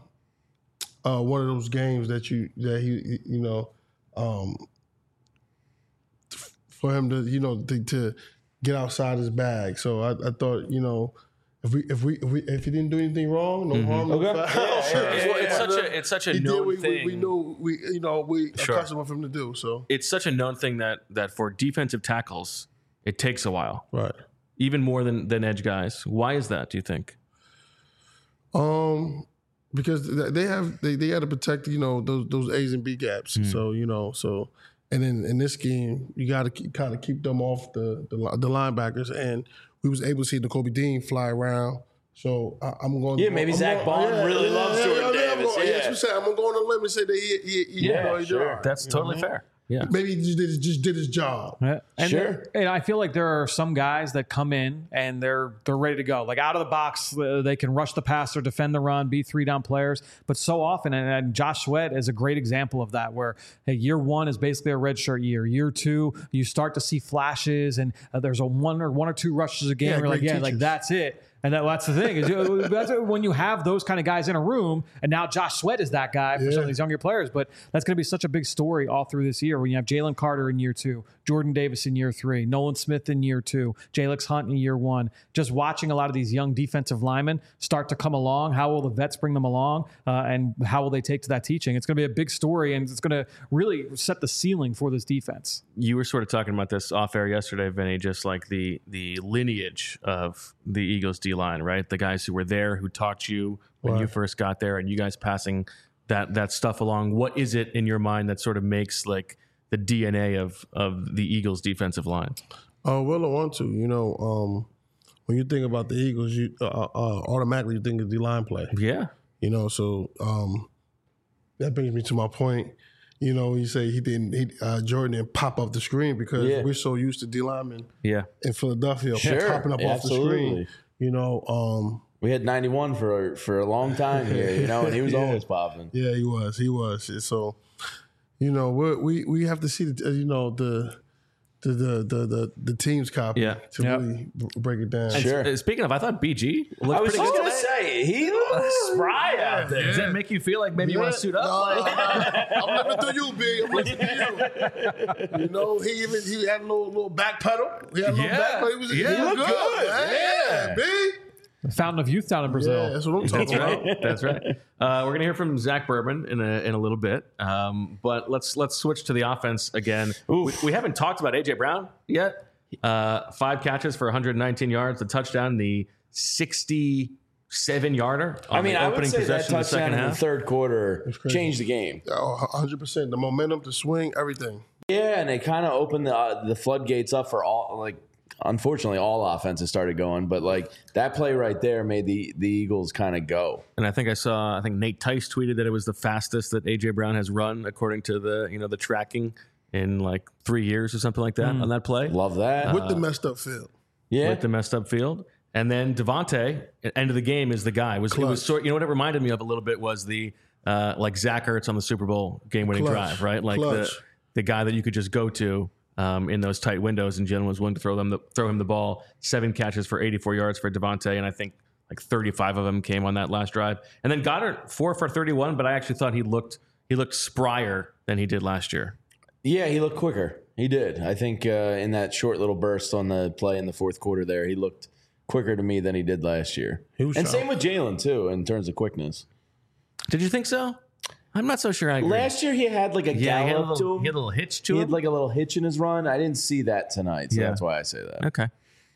B: of those games that he for him to get outside his bag. So I thought, if he didn't do anything wrong, no harm, no foul.
A: It's such a known thing.
B: We knew we accustomed for him to do. So
A: it's such a known thing that for defensive tackles, it takes a while,
B: right?
A: Even more than edge guys. Why is that? Do you think?
B: Because they had to protect those A's and B gaps. So and then in this game you got to kind of keep them off the linebackers, and we was able to see Nakobe Dean fly around. So I'm going.
C: Yeah, maybe Zach Bond really loves Jordan Davis.
B: I'm going to go on a limb and say that he
A: sure. That's totally fair. Yeah,
B: maybe he just did his job.
D: And I feel like there are some guys that come in and they're ready to go. Like out of the box, they can rush the passer, defend the run, be 3-down players. But so often, and Josh Sweat is a great example of that, where year 1 is basically a redshirt year. Year 2, you start to see flashes, and there's one or two rushes a game. Where that's it. And that's the thing is that's when you have those kind of guys in a room, and now Josh Sweat is that guy for some of these younger players. But that's going to be such a big story all through this year when you have Jalen Carter in year 2, Jordan Davis in year 3, Nolan Smith in year 2, Jalix Hunt in year 1. Just watching a lot of these young defensive linemen start to come along. How will the vets bring them along, and how will they take to that teaching? It's going to be a big story, and it's going to really set the ceiling for this defense.
A: You were sort of talking about this off air yesterday, Vinny, just like the lineage of the Eagles D-line, right? The guys who were there, who taught you when you first got there, and you guys passing that stuff along. What is it in your mind that sort of makes like the DNA of the Eagles defensive line?
B: Well, I want to. When you think about the Eagles, you automatically think of D-line play.
A: Yeah.
B: So that brings me to my point. You say Jordan didn't pop up the screen because we're so used to D linemen in Philadelphia popping up off the screen.
C: We had 91 for a long time here, and he was always popping.
B: Yeah, he was. So, we have to see the team's copy to really break it down.
A: Sure. Speaking of, I thought BG looked
C: I was
A: pretty
C: just
A: good
C: going to say, he looks spry out there.
A: Does that make you feel like maybe you want to suit up?
B: I'm living through you, B. I'm living through you. He had a little back pedal. He had a little back pedal. He was good. Yeah, B.
D: The fountain of youth down in Brazil.
B: Yeah, that's what I'm talking about.
A: That's right. We're going to hear from Zach Bourbon in a little bit. But let's switch to the offense again. We haven't talked about A.J. Brown yet. 5 catches for 119 yards, the touchdown, the 67-yarder.
C: I would say that touchdown in the third quarter changed the game.
B: 100%. The momentum, the swing, everything.
C: Yeah, and it kind of opened the floodgates up for all, unfortunately, all offenses started going, but that play right there made the Eagles kind of go.
A: And I think Nate Tice tweeted that it was the fastest that AJ Brown has run according to the tracking in 3 years or something like that on that play.
C: Love that.
B: With the messed up field.
C: Yeah.
A: With the messed up field. And then Devontae, end of the game, is the guy. It was what it reminded me of a little bit was the Zach Ertz on the Super Bowl game-winning drive, right? The guy that you could just go to in those tight windows, and Jalen was willing to throw him the ball. 7 catches for 84 yards for Devontae, and I think 35 of them came on that last drive. And then Goddard 4 for 31, but I actually thought he looked sprier than he did last year.
C: Yeah, he looked quicker. He did. I think in that short little burst on the play in the fourth quarter there, he looked quicker to me than he did last year. And same with Jalen too in terms of quickness.
A: Did you think so? I'm not so sure I agree.
C: Last year he had a gallop to him.
A: He had a little hitch to him.
C: He had a little hitch in his run. I didn't see that tonight, so that's why I say that.
A: Okay.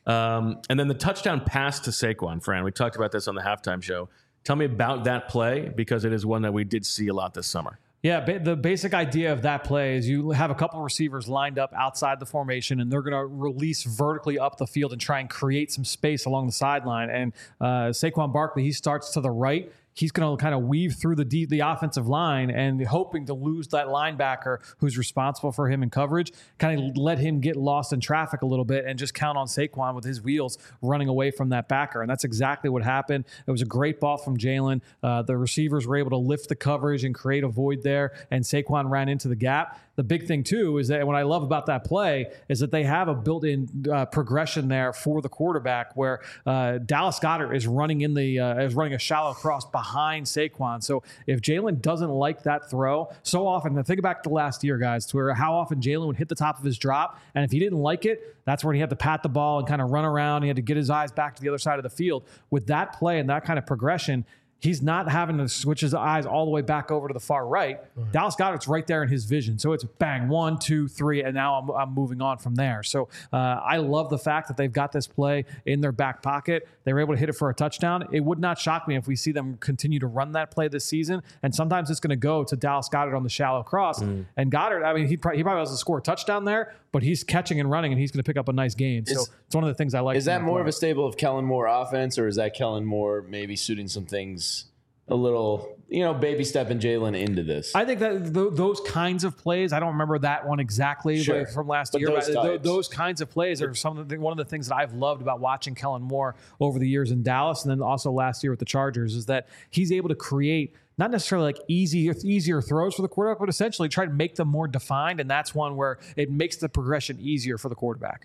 A: And then the touchdown pass to Saquon, Fran. We talked about this on the halftime show. Tell me about that play because it is one that we did see a lot this summer.
D: Yeah, the basic idea of that play is you have a couple of receivers lined up outside the formation, and they're going to release vertically up the field and try and create some space along the sideline. And Saquon Barkley, he starts to the right. He's going to kind of weave through the offensive line and hoping to lose that linebacker who's responsible for him in coverage, kind of let him get lost in traffic a little bit and just count on Saquon with his wheels running away from that backer. And that's exactly what happened. It was a great ball from Jalen. The receivers were able to lift the coverage and create a void there, and Saquon ran into the gap. The big thing, too, is that what I love about that play is that they have a built-in progression there for the quarterback where Dallas Goedert is running a shallow cross behind Saquon. So if Jalen doesn't like that throw, so often, think back to last year, guys, to where how often Jalen would hit the top of his drop, and if he didn't like it, that's when he had to pat the ball and kind of run around. He had to get his eyes back to the other side of the field. With that play and that kind of progression, he's not having to switch his eyes all the way back over to the far right. Dallas Goedert's right there in his vision. So it's bang, 1, 2, 3, and now I'm moving on from there. So I love the fact that they've got this play in their back pocket. They were able to hit it for a touchdown. It would not shock me if we see them continue to run that play this season. And sometimes it's going to go to Dallas Goedert on the shallow cross. And Goedert, he probably doesn't score a touchdown there, but he's catching and running, and he's going to pick up a nice gain. So it's one of the things I like.
C: Is that more of a stable of Kellen Moore offense, or is that Kellen Moore maybe suiting some things a little, baby stepping Jalen into this?
D: I think that those kinds of plays, I don't remember that one exactly from last year, but those kinds of plays are one of the things that I've loved about watching Kellen Moore over the years in Dallas, and then also last year with the Chargers, is that he's able to create not necessarily easier throws for the quarterback, but essentially try to make them more defined, and that's one where it makes the progression easier for the quarterback.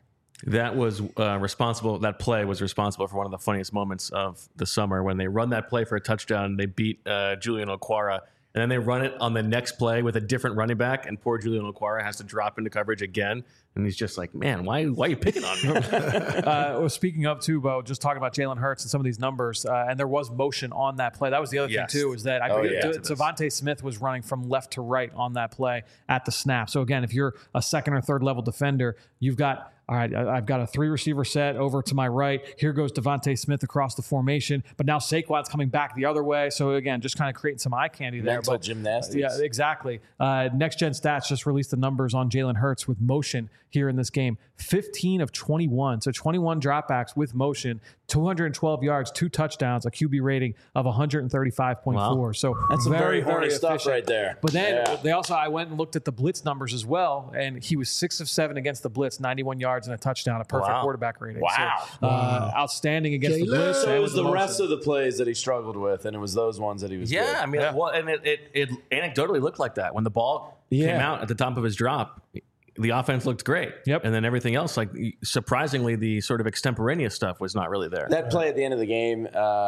A: That was responsible. That play was responsible for one of the funniest moments of the summer when they run that play for a touchdown. They beat Julian Okwara, and then they run it on the next play with a different running back, and poor Julian Okwara has to drop into coverage again. And he's just like, man, why are you picking on me?
D: Speaking of, too, Bo, just talking about Jalen Hurts and some of these numbers, and there was motion on that play. That was the other thing, too, is that Devontae Smith was running from left to right on that play at the snap. So, again, if you're a second or third level defender, you've got, all right, I've got a 3-receiver set over to my right. Here goes Devontae Smith across the formation. But now Saquon's coming back the other way. So, again, just kind of creating some eye candy there.
C: Mental gymnastics.
D: Yeah, exactly. Next Gen Stats just released the numbers on Jalen Hurts with motion here in this game. 15 of 21. So 21 dropbacks with motion, 212 yards, 2 touchdowns, a QB rating of 135.4.
A: Wow.
D: So
C: that's very horny stuff
D: efficient.
C: right there.
D: But then I went and looked at the blitz numbers as well, and he was 6 of 7 against the blitz, 91 yards and a touchdown, a perfect quarterback rating.
C: Wow.
D: So, outstanding against the blitz.
C: So it was the
D: motion.
C: rest of the plays that he struggled with, and it was those ones that he was good.
A: I mean, well, and it anecdotally looked like that. When the ball came out at the top of his drop, the offense looked great.
D: Yep.
A: And then everything else, like surprisingly, the sort of extemporaneous stuff was not really there.
C: That play at the end of the game,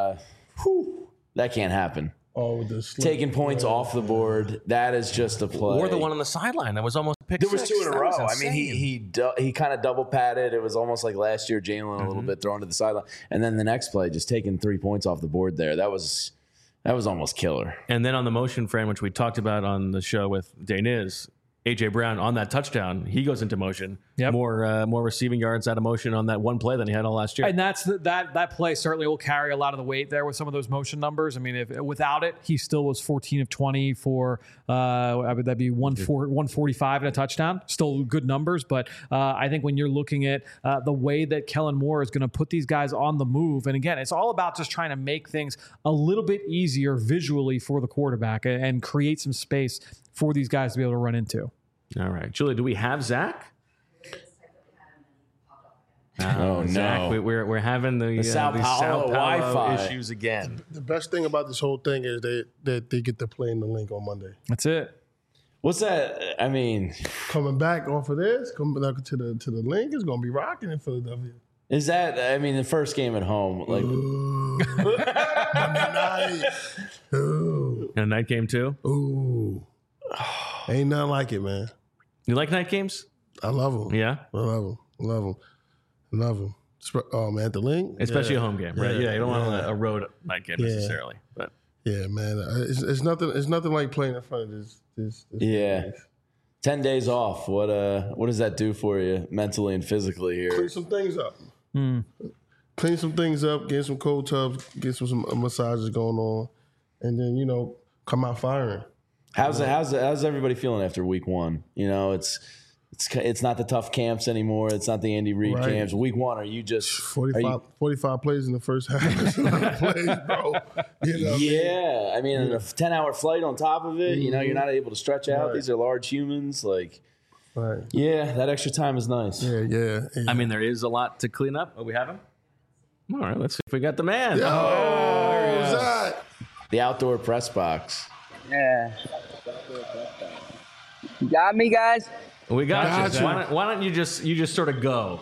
C: that can't happen.
B: Oh,
C: taking points off the board, that is just a play.
A: Or the one on the sideline that was almost a pick
C: There was
A: six.
C: 2 in a
A: That
C: row.
A: was
C: I mean, he kind of double patted. It was almost like last year, Jalen a little bit thrown to the sideline, and then the next play, just taking 3 points off the board there. That was almost killer.
A: And then on the motion frame, which we talked about on the show with Daniz, A.J. Brown on that touchdown, he goes into motion.
D: Yep.
A: More receiving yards out of motion on that one play than he had all last year.
D: And that play certainly will carry a lot of the weight there with some of those motion numbers. I mean, without it, he still was 14 of 20 for that'd be 145 and a touchdown. Still good numbers, but I think when you're looking at the way that Kellen Moore is going to put these guys on the move, and again, it's all about just trying to make things a little bit easier visually for the quarterback and create some space for these guys to be able to run into.
A: All right, Julie, do we have Zach?
C: Oh,
A: Zach,
C: no.
A: we're having the
C: Sao Paulo Wi-Fi
A: issues again.
B: The best thing about this whole thing is that they get to play in the link on Monday.
D: That's it.
C: What's that? I mean,
B: coming back off of this, coming back to the link, it's gonna be rocking in Philadelphia.
C: Is that? I mean, the first game at home, like
B: Monday night. Ooh.
A: And a night game too.
B: Ooh, ain't nothing like it, man.
A: You like night games?
B: I love them.
A: Yeah,
B: I love them. Oh man, the link,
A: especially a home game, right? Yeah, you don't want a road night game necessarily, but
B: yeah, man, it's nothing. It's nothing like playing in front of this.
C: Yeah. 10 days off. What does that do for you mentally and physically here?
B: Clean some things up. Clean some things up. Get some cold tubs. Get some massages going on, and then come out firing.
C: How's everybody feeling after week 1? It's not the tough camps anymore. It's not the Andy Reid camps. Week 1, are you just
B: 45 plays in the first half? That's a lot of plays, bro.
C: I mean, a 10-hour flight on top of it. You're not able to stretch out. These are large humans. That extra time is nice.
B: Yeah.
A: I mean, there is a lot to clean up. Oh, we have him? All right, let's see if we got the man.
B: Who's that?
C: The outdoor press box.
L: Yeah. You got me, guys?
A: We got you. Why don't you just sort of go?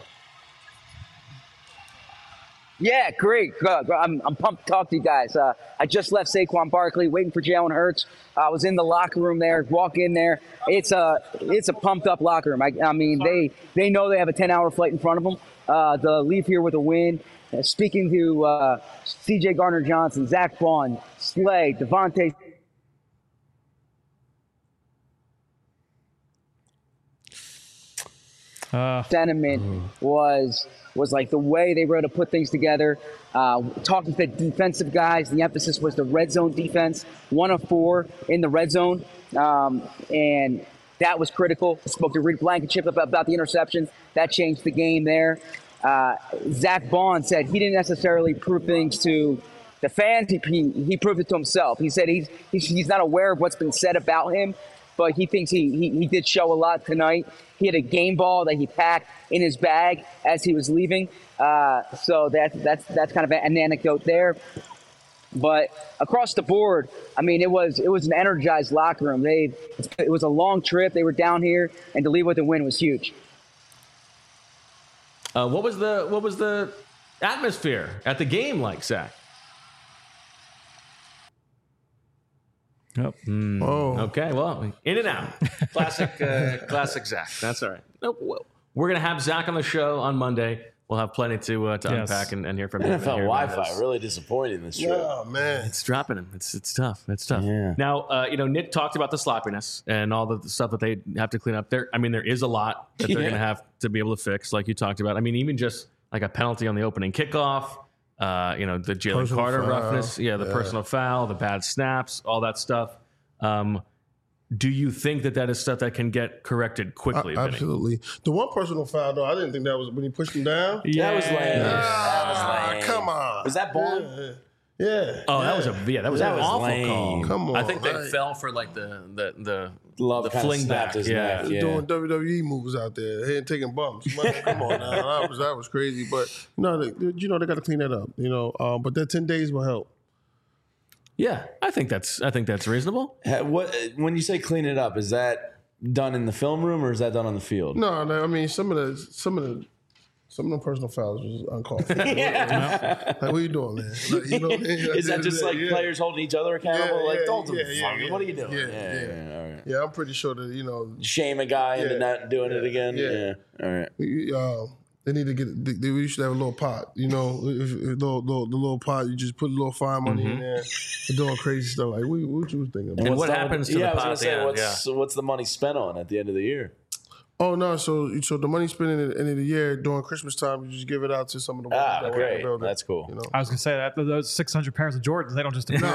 L: Yeah, great. I'm pumped to talk to you guys. I just left Saquon Barkley, waiting for Jalen Hurts. I was in the locker room there. Walk in there. It's a pumped up locker room. I mean, they know they have a 10-hour flight in front of them. They'll leave here with a win. Speaking to C.J. Gardner-Johnson, Zach Bond, Slay, Devontae. Sentiment was like the way they were able to put things together. Talking to the defensive guys, the emphasis was the red zone defense, 1 of 4 in the red zone, and that was critical. I spoke to Rick Blankenship about the interception. That changed the game there. Zach Bond said he didn't necessarily prove things to the fans. He proved it to himself. He said he's not aware of what's been said about him, but he thinks he did show a lot tonight. He had a game ball that he packed in his bag as he was leaving. So that's kind of an anecdote there. But across the board, I mean, it was an energized locker room. It was a long trip. They were down here, and to leave with a win was huge.
A: What was the atmosphere at the game like, Zach?
D: Yep.
A: Okay, well, in and out. Classic Zach. That's all right. Nope. We're going to have Zach on the show on Monday. We'll have plenty to unpack and hear from him.
C: NFL Wi-Fi really disappointing this trip.
B: Oh, man.
A: It's dropping him. It's tough. It's tough.
C: Yeah.
A: Now, Nick talked about the sloppiness and all the stuff that they have to clean up. There is a lot that they're going to have to be able to fix, like you talked about. I mean, even just like a penalty on the opening kickoff, the Jalen
B: Personal
A: Carter
B: foul.
A: roughness, the personal foul, the bad snaps, all that stuff. Do you think that is stuff that can get corrected quickly? Vinny?
B: Absolutely. The one personal foul, though, I didn't think that was when he pushed him down.
C: That was lame.
B: Come on.
C: Was that Bond?
B: Yeah.
A: Oh, that was an awful
C: lame.
A: call.
B: Come on.
A: I think they fell for like the
C: Love kinda
A: fling
C: snapped
A: back.
C: his neck.
B: He's doing WWE moves out there. He ain't taking bumps. Man, come on now. That was crazy. But they got to clean that up. But that 10 days will help.
A: Yeah, I think that's reasonable.
C: When you say clean it up, is that done in the film room or is that done on the field?
B: No, I mean some of the personal fouls was uncalled for. Like, what are you doing, man? Like, you know what I mean?
C: Is that just like players holding each other accountable? Don't do
B: yeah.
C: What are you doing?
B: Yeah.
C: All right.
B: Yeah, I'm pretty sure that
C: Shame a guy into not doing it again.
B: Yeah.
C: All right.
B: They need to get. We should have a little pot. The little pot. You just put a little fine money in there. They're doing crazy stuff. Like what you was thinking about?
A: And what happens to the pot?
C: I was going to say, what's the money spent on at the end of the year?
B: Oh no! So the money spent at the end of the year during Christmas time, you just give it out to some of the workers that work in
C: great.
B: the building.
C: That's cool.
D: I was going to say that those 600 pairs of Jordans, they don't just appear.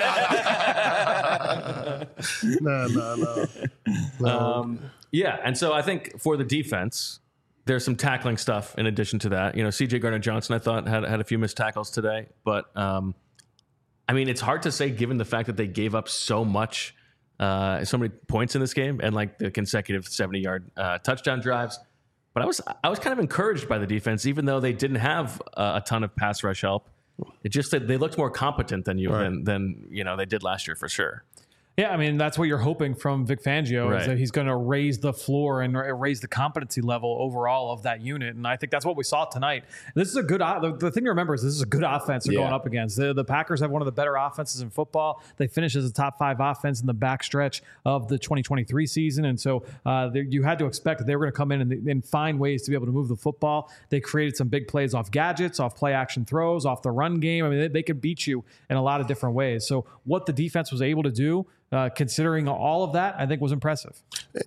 B: No.
A: Yeah, and so I think for the defense, there's some tackling stuff in addition to that. C.J. Gardner-Johnson, I thought, had a few missed tackles today. But, I mean, it's hard to say given the fact that they gave up so many points in this game and, like, the consecutive 70-yard touchdown drives. But I was kind of encouraged by the defense, even though they didn't have a ton of pass rush help. It just that they looked more competent than they did last year for sure.
D: Yeah, I mean, that's what you're hoping from Vic Fangio,
A: Right.
D: is that he's going to raise the floor and raise the competency level overall of that unit. And I think that's what we saw tonight. This is a good the thing to remember is this is a good offense they're going up against. The Packers have one of the better offenses in football. They finished as a top 5 offense in the backstretch of the 2023 season. And so you had to expect that they were going to come in and find ways to be able to move the football. They created some big plays off gadgets, off play action throws, off the run game. I mean, they could beat you in a lot of different ways. So what the defense was able to do, considering all of that, I think was impressive.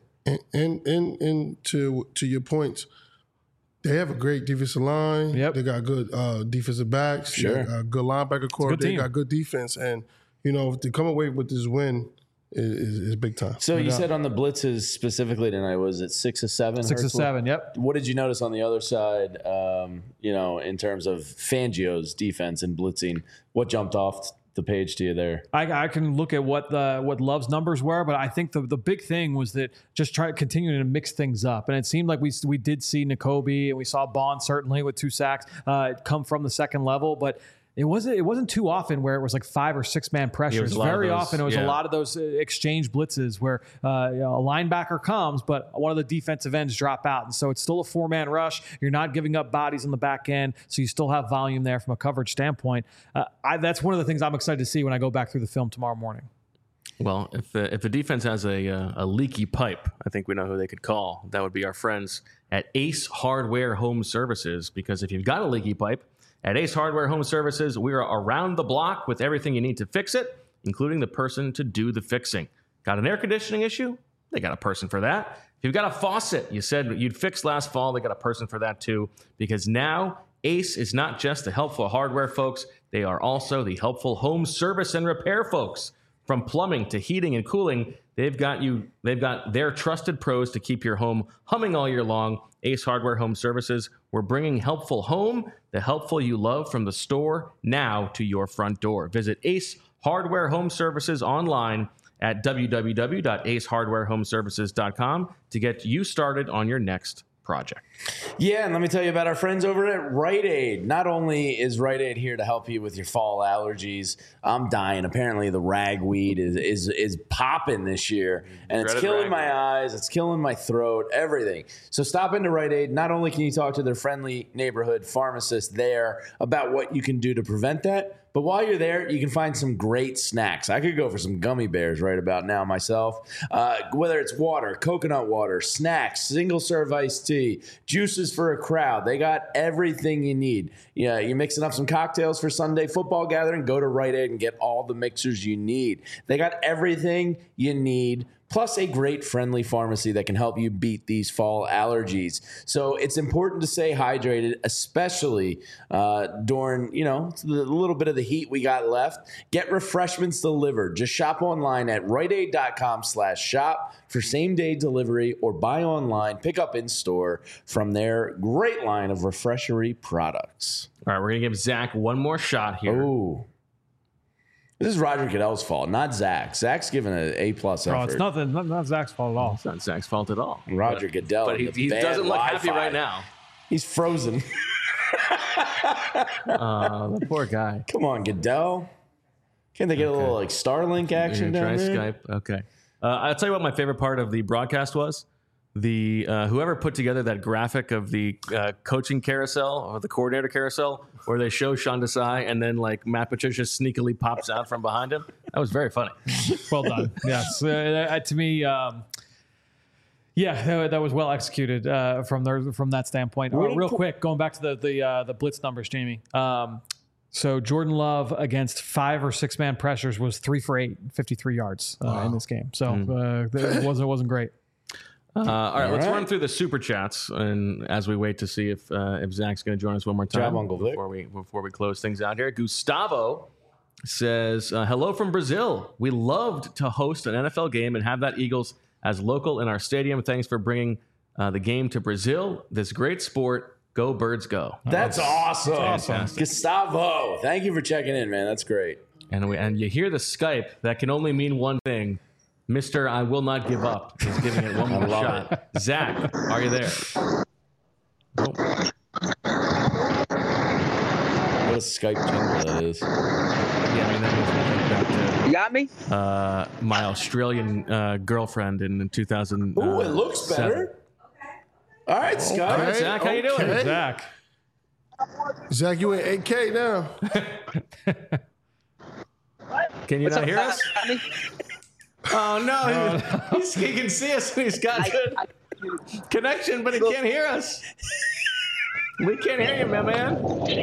B: And to your points, they have a great defensive line.
D: Yep.
B: They got good defensive backs.
C: Sure.
B: They got a good linebacker core.
D: Good
B: They
D: team.
B: got good defense. And, to come away with this win is big time.
C: So you said on the blitzes specifically tonight, was it 6 or 7?
D: 6 or 7, yep.
C: What did you notice on the other side, in terms of Fangio's defense and blitzing? What jumped off the page to you there?
D: I can look at what Love's numbers were, but I think the big thing was that just continuing to mix things up. And it seemed like we did see Nakobe and we saw Bond certainly with 2 sacks come from the second level, but it wasn't too often where it was like 5 or 6 man pressures. Very often it was a lot of those exchange blitzes where a linebacker comes, but one of the defensive ends drop out. And so it's still a 4-man rush. You're not giving up bodies on the back end, so you still have volume there from a coverage standpoint. That's one of the things I'm excited to see when I go back through the film tomorrow morning.
A: Well, if the defense has a leaky pipe, I think we know who they could call. That would be our friends at Ace Hardware Home Services, because if you've got a leaky pipe, at Ace Hardware Home Services, we are around the block with everything you need to fix it, including the person to do the fixing. Got an air conditioning issue? They got a person for that. If you've got a faucet you said you'd fixed last fall, they got a person for that too, because now Ace is not just the helpful hardware folks, they are also the helpful home service and repair folks. From plumbing to heating and cooling, they've got their trusted pros to keep your home humming all year long. Ace Hardware Home Services. We're bringing helpful home, the helpful you love, from the store now to your front door. Visit Ace Hardware Home Services online at www.acehardwarehomeservices.com to get you started on your next project.
C: Yeah, and let me tell you about our friends over at Rite Aid. Not only is Rite Aid here to help you with your fall allergies, I'm dying. Apparently, the ragweed is popping this year, and it's killing my eyes, it's killing my throat, everything. So stop into Rite Aid. Not only can you talk to their friendly neighborhood pharmacist there about what you can do to prevent that, but while you're there, you can find some great snacks. I could go for some gummy bears right about now myself. Whether it's water, coconut water, snacks, single-serve iced tea, juices for a crowd. They got everything you need. Yeah, you're mixing up some cocktails for Sunday football gathering, go to Rite Aid and get all the mixers you need. They got everything you need, plus a great friendly pharmacy that can help you beat these fall allergies. So it's important to stay hydrated, especially during, the little bit of the heat we got left. Get refreshments delivered. Just shop online at riteaid.com/shop for same-day delivery, or buy online, pick up in store from their great line of refreshery products.
A: All right, we're going to give Zach one more shot here.
C: Oh. This is Roger Goodell's fault, not Zach. Zach's given an A+ effort.
D: Oh, it's not Zach's fault at all.
A: It's not Zach's fault at all.
C: Roger Goodell.
A: But he doesn't look happy right now.
C: He's frozen.
A: The poor guy.
C: Come on, Goodell. Can't they get a little Starlink action down there?
A: Try Skype. Okay. I'll tell you what my favorite part of the broadcast was. The whoever put together that graphic of the coaching carousel or the coordinator carousel, where they show Sean Desai and then like Matt Patricia sneakily pops out from behind him. That was very funny.
D: Well done. Yes, to me, that was well executed from that standpoint. Real quick, going back to the blitz numbers, Jamie. So Jordan Love against 5 or 6 man pressures was 3 for 8, 53 yards in this game. So it wasn't great.
A: All right, let's run through the super chats, and as we wait to see if Zach's going to join us one more time before we close things out here. Gustavo says, "Hello from Brazil. We loved to host an NFL game and have that Eagles as local in our stadium. Thanks for bringing the game to Brazil. This great sport. Go Birds, go!"
C: That's awesome. Gustavo, thank you for checking in, man. That's great.
A: And you hear the Skype. That can only mean one thing. Mr. I will not give up is giving it one more shot. Zach, are you there?
C: What a Skype jingle that is.
A: Yeah, I mean, that makes me think back to...
L: You got me?
A: My Australian girlfriend in 2000.
C: Ooh, it looks better. All right, Scott.
A: All right, Zach, how you doing?
B: Zach, you in 8K now.
A: Can you not hear us? Oh, no. He can see us and he's got good connection, but he can't hear us. We can't hear you, my man.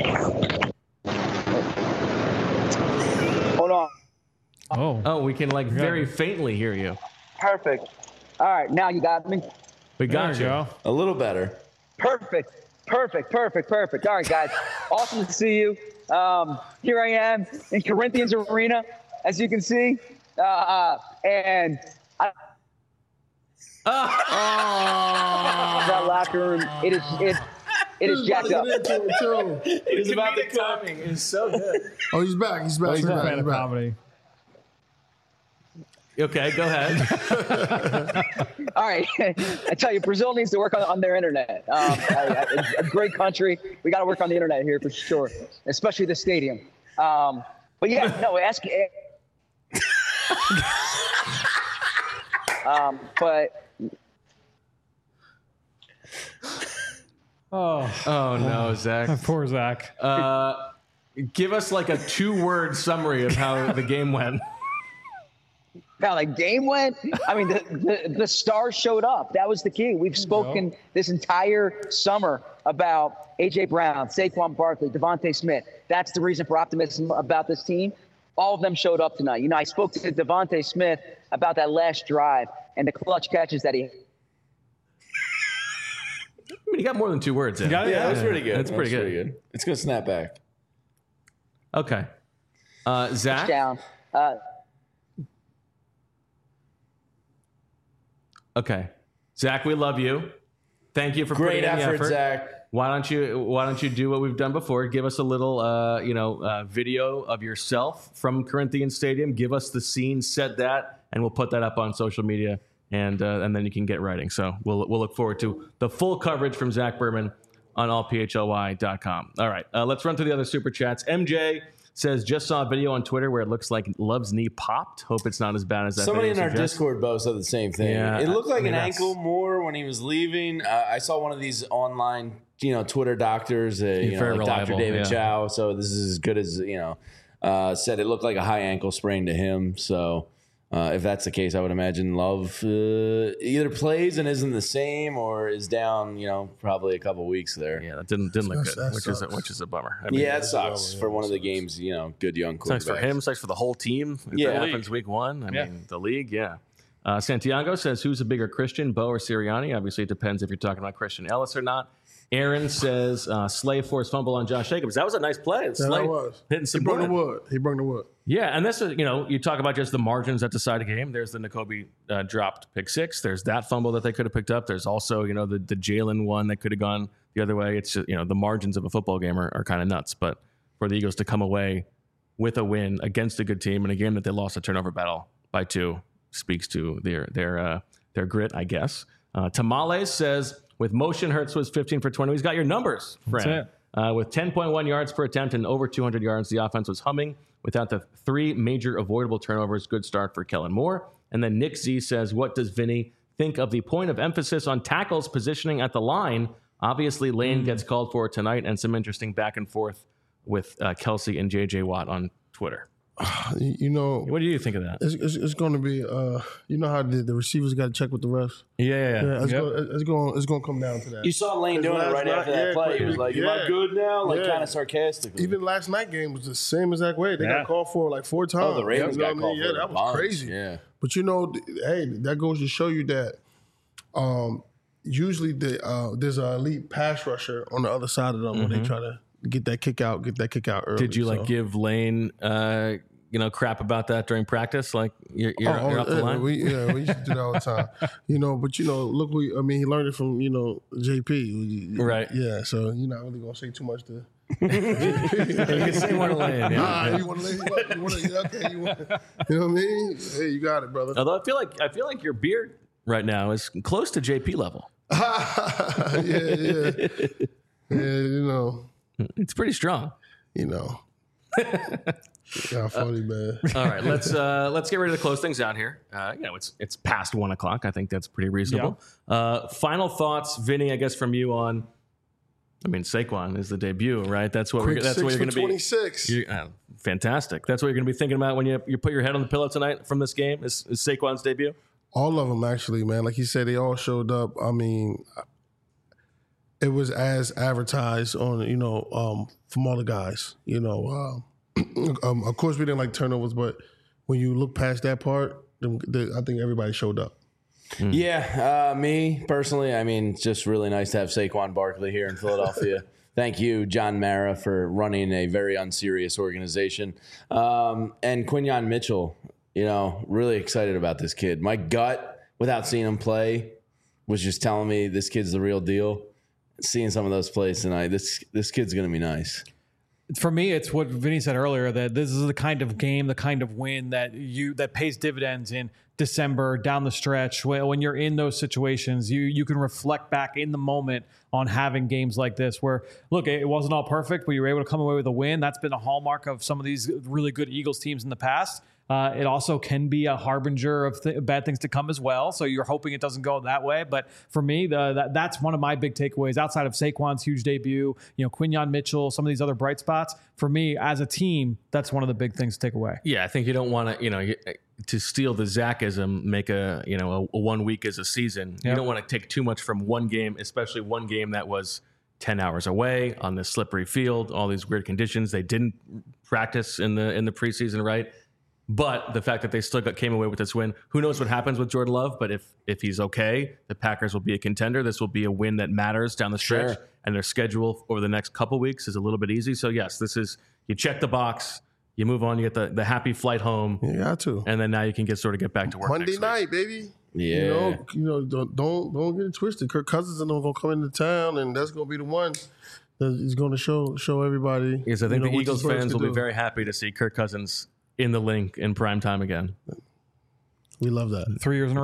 L: Hold on.
A: Oh, we can very faintly hear you.
L: Perfect. All right, now you got me.
A: We got you.
C: A little better.
L: Perfect. All right, guys. Awesome to see you. Here I am in Corinthians Arena, as you can see. And that locker room, it is jacked up.
C: He's about the timing. It's so good.
B: Oh, he's back. He's back.
D: He's a fan of comedy.
A: Okay, go ahead.
L: All right. I tell you, Brazil needs to work on their internet. A great country. We got to work on the internet here for sure, especially the stadium. But yeah, no, ask. But
A: oh no, Zach.
D: Poor Zach.
A: Give us like a 2-word summary of how the game went.
L: How the game went? I mean, the stars showed up. That was the key. We've spoken this entire summer about A.J. Brown, Saquon Barkley, Devontae Smith. That's the reason for optimism about this team. All of them showed up tonight. I spoke to Devontae Smith about that last drive and the clutch catches that he had.
A: I mean, he got more than 2 words in.
C: Yeah, that was pretty good.
A: That's pretty good.
C: It's going to snap back.
A: Okay. Zach?
L: Down.
A: Okay. Zach, we love you. Thank you for
C: Great
A: putting in the
C: effort,
A: effort.
C: Zach.
A: Why don't you do what we've done before? Give us a little, video of yourself from Corinthians Stadium. Give us the scene, set that, and we'll put that up on social media and then you can get writing. So we'll look forward to the full coverage from Zach Berman on allphly.com. All right, let's run through the other super chats. MJ says, just saw a video on Twitter where it looks like Love's knee popped. Hope it's not as bad as that.
C: Somebody in
A: video
C: our
A: suggests.
C: Discord, Bo, said the same thing.
A: Yeah,
C: it looked like an
A: that's-
C: ankle more when he was leaving. I saw one of these online, Twitter doctors,
A: very
C: like Dr.
A: reliable,
C: David
A: yeah.
C: Chow. So this is as good as, said it looked like a high ankle sprain to him. So if that's the case, I would imagine Love either plays and isn't the same or is down, probably a couple weeks there.
A: Yeah, that didn't look good,
B: That
A: which is a bummer.
C: It sucks for one of the games, good young quarterbacks.
A: Sucks for him, sucks for the whole team. If
C: Yeah.
A: that happens week one. I mean, the league, yeah. Santiago says, who's a bigger Christian, Bo or Sirianni? Obviously, it depends if you're talking about Christian Ellis or not. Aaron says, Slay forced fumble on Josh Jacobs. That was a nice play. Slay
B: that was.
A: hitting some
B: He brought the
A: wood.
B: wood. He brought the wood.
A: Yeah, and this is, you talk about just the margins that decide a game. There's the N'Kobe dropped pick 6. There's that fumble that they could have picked up. There's also, the Jalen one that could have gone the other way. It's just, the margins of a football game are kind of nuts. But for the Eagles to come away with a win against a good team in a game that they lost a turnover battle by 2 speaks to their grit, I guess. Tamales says, with motion, Hurts was 15 for 20. He's got your numbers, friend. With 10.1 yards per attempt and over 200 yards, the offense was humming without the 3 major avoidable turnovers. Good start for Kellen Moore. And then Nick Z says, what does Vinny think of the point of emphasis on tackles positioning at the line? Obviously, Lane gets called for tonight, and some interesting back and forth with Kelsey and J.J. Watt on Twitter. What do you think of that?
B: It's going to be, how the receivers got to check with the refs.
A: Yeah.
B: It's going to come down to that.
C: You saw Lane doing it right after that play. He was like, am I good now? Kind of sarcastically.
B: Even last night game was the same exact way. They got called for like 4 times.
C: Oh, the Ravens got called for
B: Yeah, that was
C: bunch.
B: crazy.
C: Yeah.
B: But hey, that goes to show you that usually there's an elite pass rusher on the other side of them when they try to get that kick out early.
A: Did you give Lane crap about that during practice? Like you're off the line?
B: We used to do that all the time. But look, he learned it from JP.
A: Right.
B: Yeah, so you're not really gonna say too much to
A: You can say one of Lane.
B: you want to lay okay, you know what I mean? Hey, you got it, brother.
A: Although I feel like your beard right now is close to JP level.
B: Yeah,
A: It's pretty strong.
B: Yeah, funny, man.
A: All right, let's get ready to close things out here. It's past 1 o'clock. I think that's pretty reasonable. Final thoughts, Vinny, I guess from you on. Saquon is the debut, right? That's what
B: Quick
A: that's what you're going to be.
B: 26.
A: Fantastic. That's what you're going to be thinking about when you put your head on the pillow tonight from this game. Is Saquon's debut?
B: All of them, actually, man. Like you said, they all showed up. It was as advertised on, from all the guys. Of course, we didn't like turnovers, but when you look past that part, I think everybody showed up.
C: Yeah, me personally, it's just really nice to have Saquon Barkley here in Philadelphia. Thank you, John Mara, for running a very unserious organization. And Quinyon Mitchell, really excited about this kid. My gut, without seeing him play, was just telling me this kid's the real deal. Seeing some of those plays tonight, this kid's going to be nice.
D: For me, it's what Vinny said earlier, that this is the kind of game, the kind of win that pays dividends in December down the stretch. When you're in those situations, you can reflect back in the moment on having games like this where, look, it wasn't all perfect, but you were able to come away with a win. That's been a hallmark of some of these really good Eagles teams in the past. It also can be a harbinger of bad things to come as well. So you're hoping it doesn't go that way. But for me, that's one of my big takeaways outside of Saquon's huge debut, Quinyon Mitchell, some of these other bright spots. For me, as a team, that's one of the big things to take away.
A: Yeah, I think you don't want to, to steal the Zachism, make a 1 week as a season. Yep. You don't want to take too much from one game, especially one game that was 10 hours away on this slippery field, all these weird conditions. They didn't practice in the preseason, right? But the fact that they still came away with this win, who knows what happens with Jordan Love? But if he's okay, the Packers will be a contender. This will be a win that matters down the stretch. Sure. And their schedule over the next couple weeks is a little bit easy. So yes, you check the box, you move on, you get the happy flight home.
B: You got to,
A: and then now you can get back to work.
B: Monday night, baby.
C: Yeah,
B: don't get it twisted. Kirk Cousins and them gonna come into town, and that's gonna be the one that is going to show everybody.
A: Yes, I think the Eagles fans will be very happy to see Kirk Cousins in the link in prime time again.
B: We love that.
D: 3 years in a row.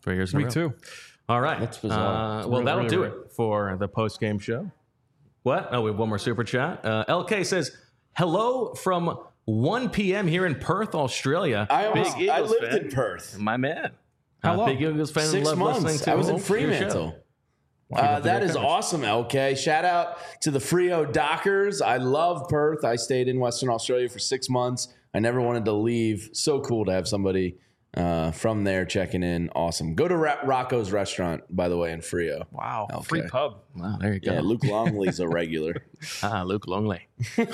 A: 3 years in a row.
D: Me too.
A: All right.
C: That's bizarre.
A: Well, that'll
D: really
A: do
D: rare.
A: it for the post-game show. What? Oh, we have one more super chat. LK says, hello from 1 p.m. here in Perth, Australia.
C: I
A: Eagles
C: lived
A: fan.
C: in Perth.
A: My man.
D: How long?
A: Big Eagles fan.
C: 6
A: love
C: months.
A: listening to
C: I was in
A: your show.
C: Fremantle. That is awesome, LK. Shout out to the Frio Dockers. I love Perth. I stayed in Western Australia for 6 months. I never wanted to leave. So cool to have somebody from there checking in. Awesome. Go to Rocco's restaurant, by the way, in Frio.
D: Wow.
C: Okay.
D: Free pub.
A: Wow, there you go.
C: Yeah, Luke Longley's a regular.
A: Luke Longley.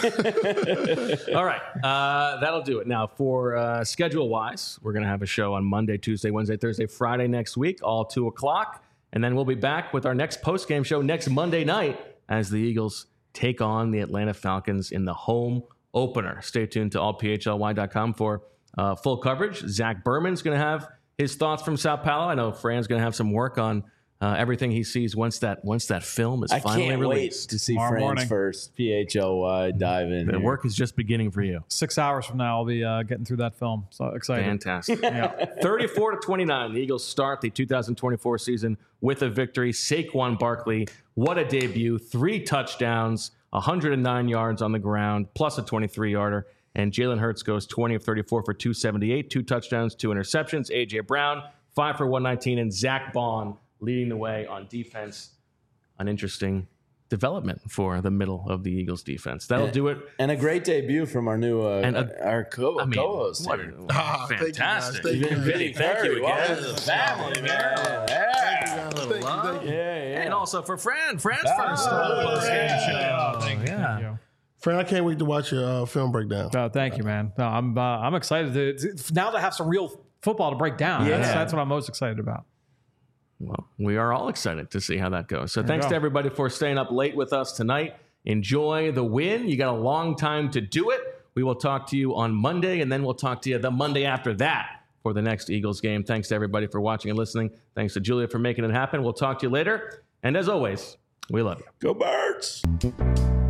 A: All right. That'll do it. Now, for schedule-wise, we're going to have a show on Monday, Tuesday, Wednesday, Thursday, Friday next week, all 2 o'clock. And then we'll be back with our next post-game show next Monday night as the Eagles take on the Atlanta Falcons in the home opener. Stay tuned to allphly.com for full coverage. Zach Berman's going to have his thoughts from Sao Paulo. I know Fran's going to have some work on everything he sees once that film is finally released.
C: I can't wait to see
D: Tomorrow
C: Fran's
D: morning.
C: first PHLY dive in.
A: The
C: here.
A: work is just beginning for you.
D: 6 hours from now, I'll be getting through that film. So excited.
A: Fantastic. 34-29. The Eagles start the 2024 season with a victory. Saquon Barkley, what a debut. 3 touchdowns, 109 yards on the ground, plus a 23-yarder. And Jalen Hurts goes 20 of 34 for 278, 2 touchdowns, 2 interceptions. A.J. Brown, 5 for 119. And Zach Bond leading the way on defense. An interesting development for the middle of the Eagles defense. That'll do it.
C: And a great debut from our new co-host.
A: What
C: here.
A: fantastic.
B: Thank you, guys.
C: Vinny, thank you again to the family, man.
B: Thank you.
A: And also for Fran's first post-game show.
D: Thank you.
B: Fran, I can't wait to watch your film breakdown.
D: Oh, thank you, man. No, I'm excited to now to have some real football to break down.
A: Yeah.
D: That's what I'm most excited about.
A: Well, we are all excited to see how that goes. So
D: There
A: thanks
D: you
A: to
D: go.
A: everybody for staying up late with us tonight. Enjoy the win. You got a long time to do it. We will talk to you on Monday, and then we'll talk to you the Monday after that for the next Eagles game. Thanks to everybody for watching and listening. Thanks to Julia for making it happen. We'll talk to you later. And as always, we love you.
C: Go Birds!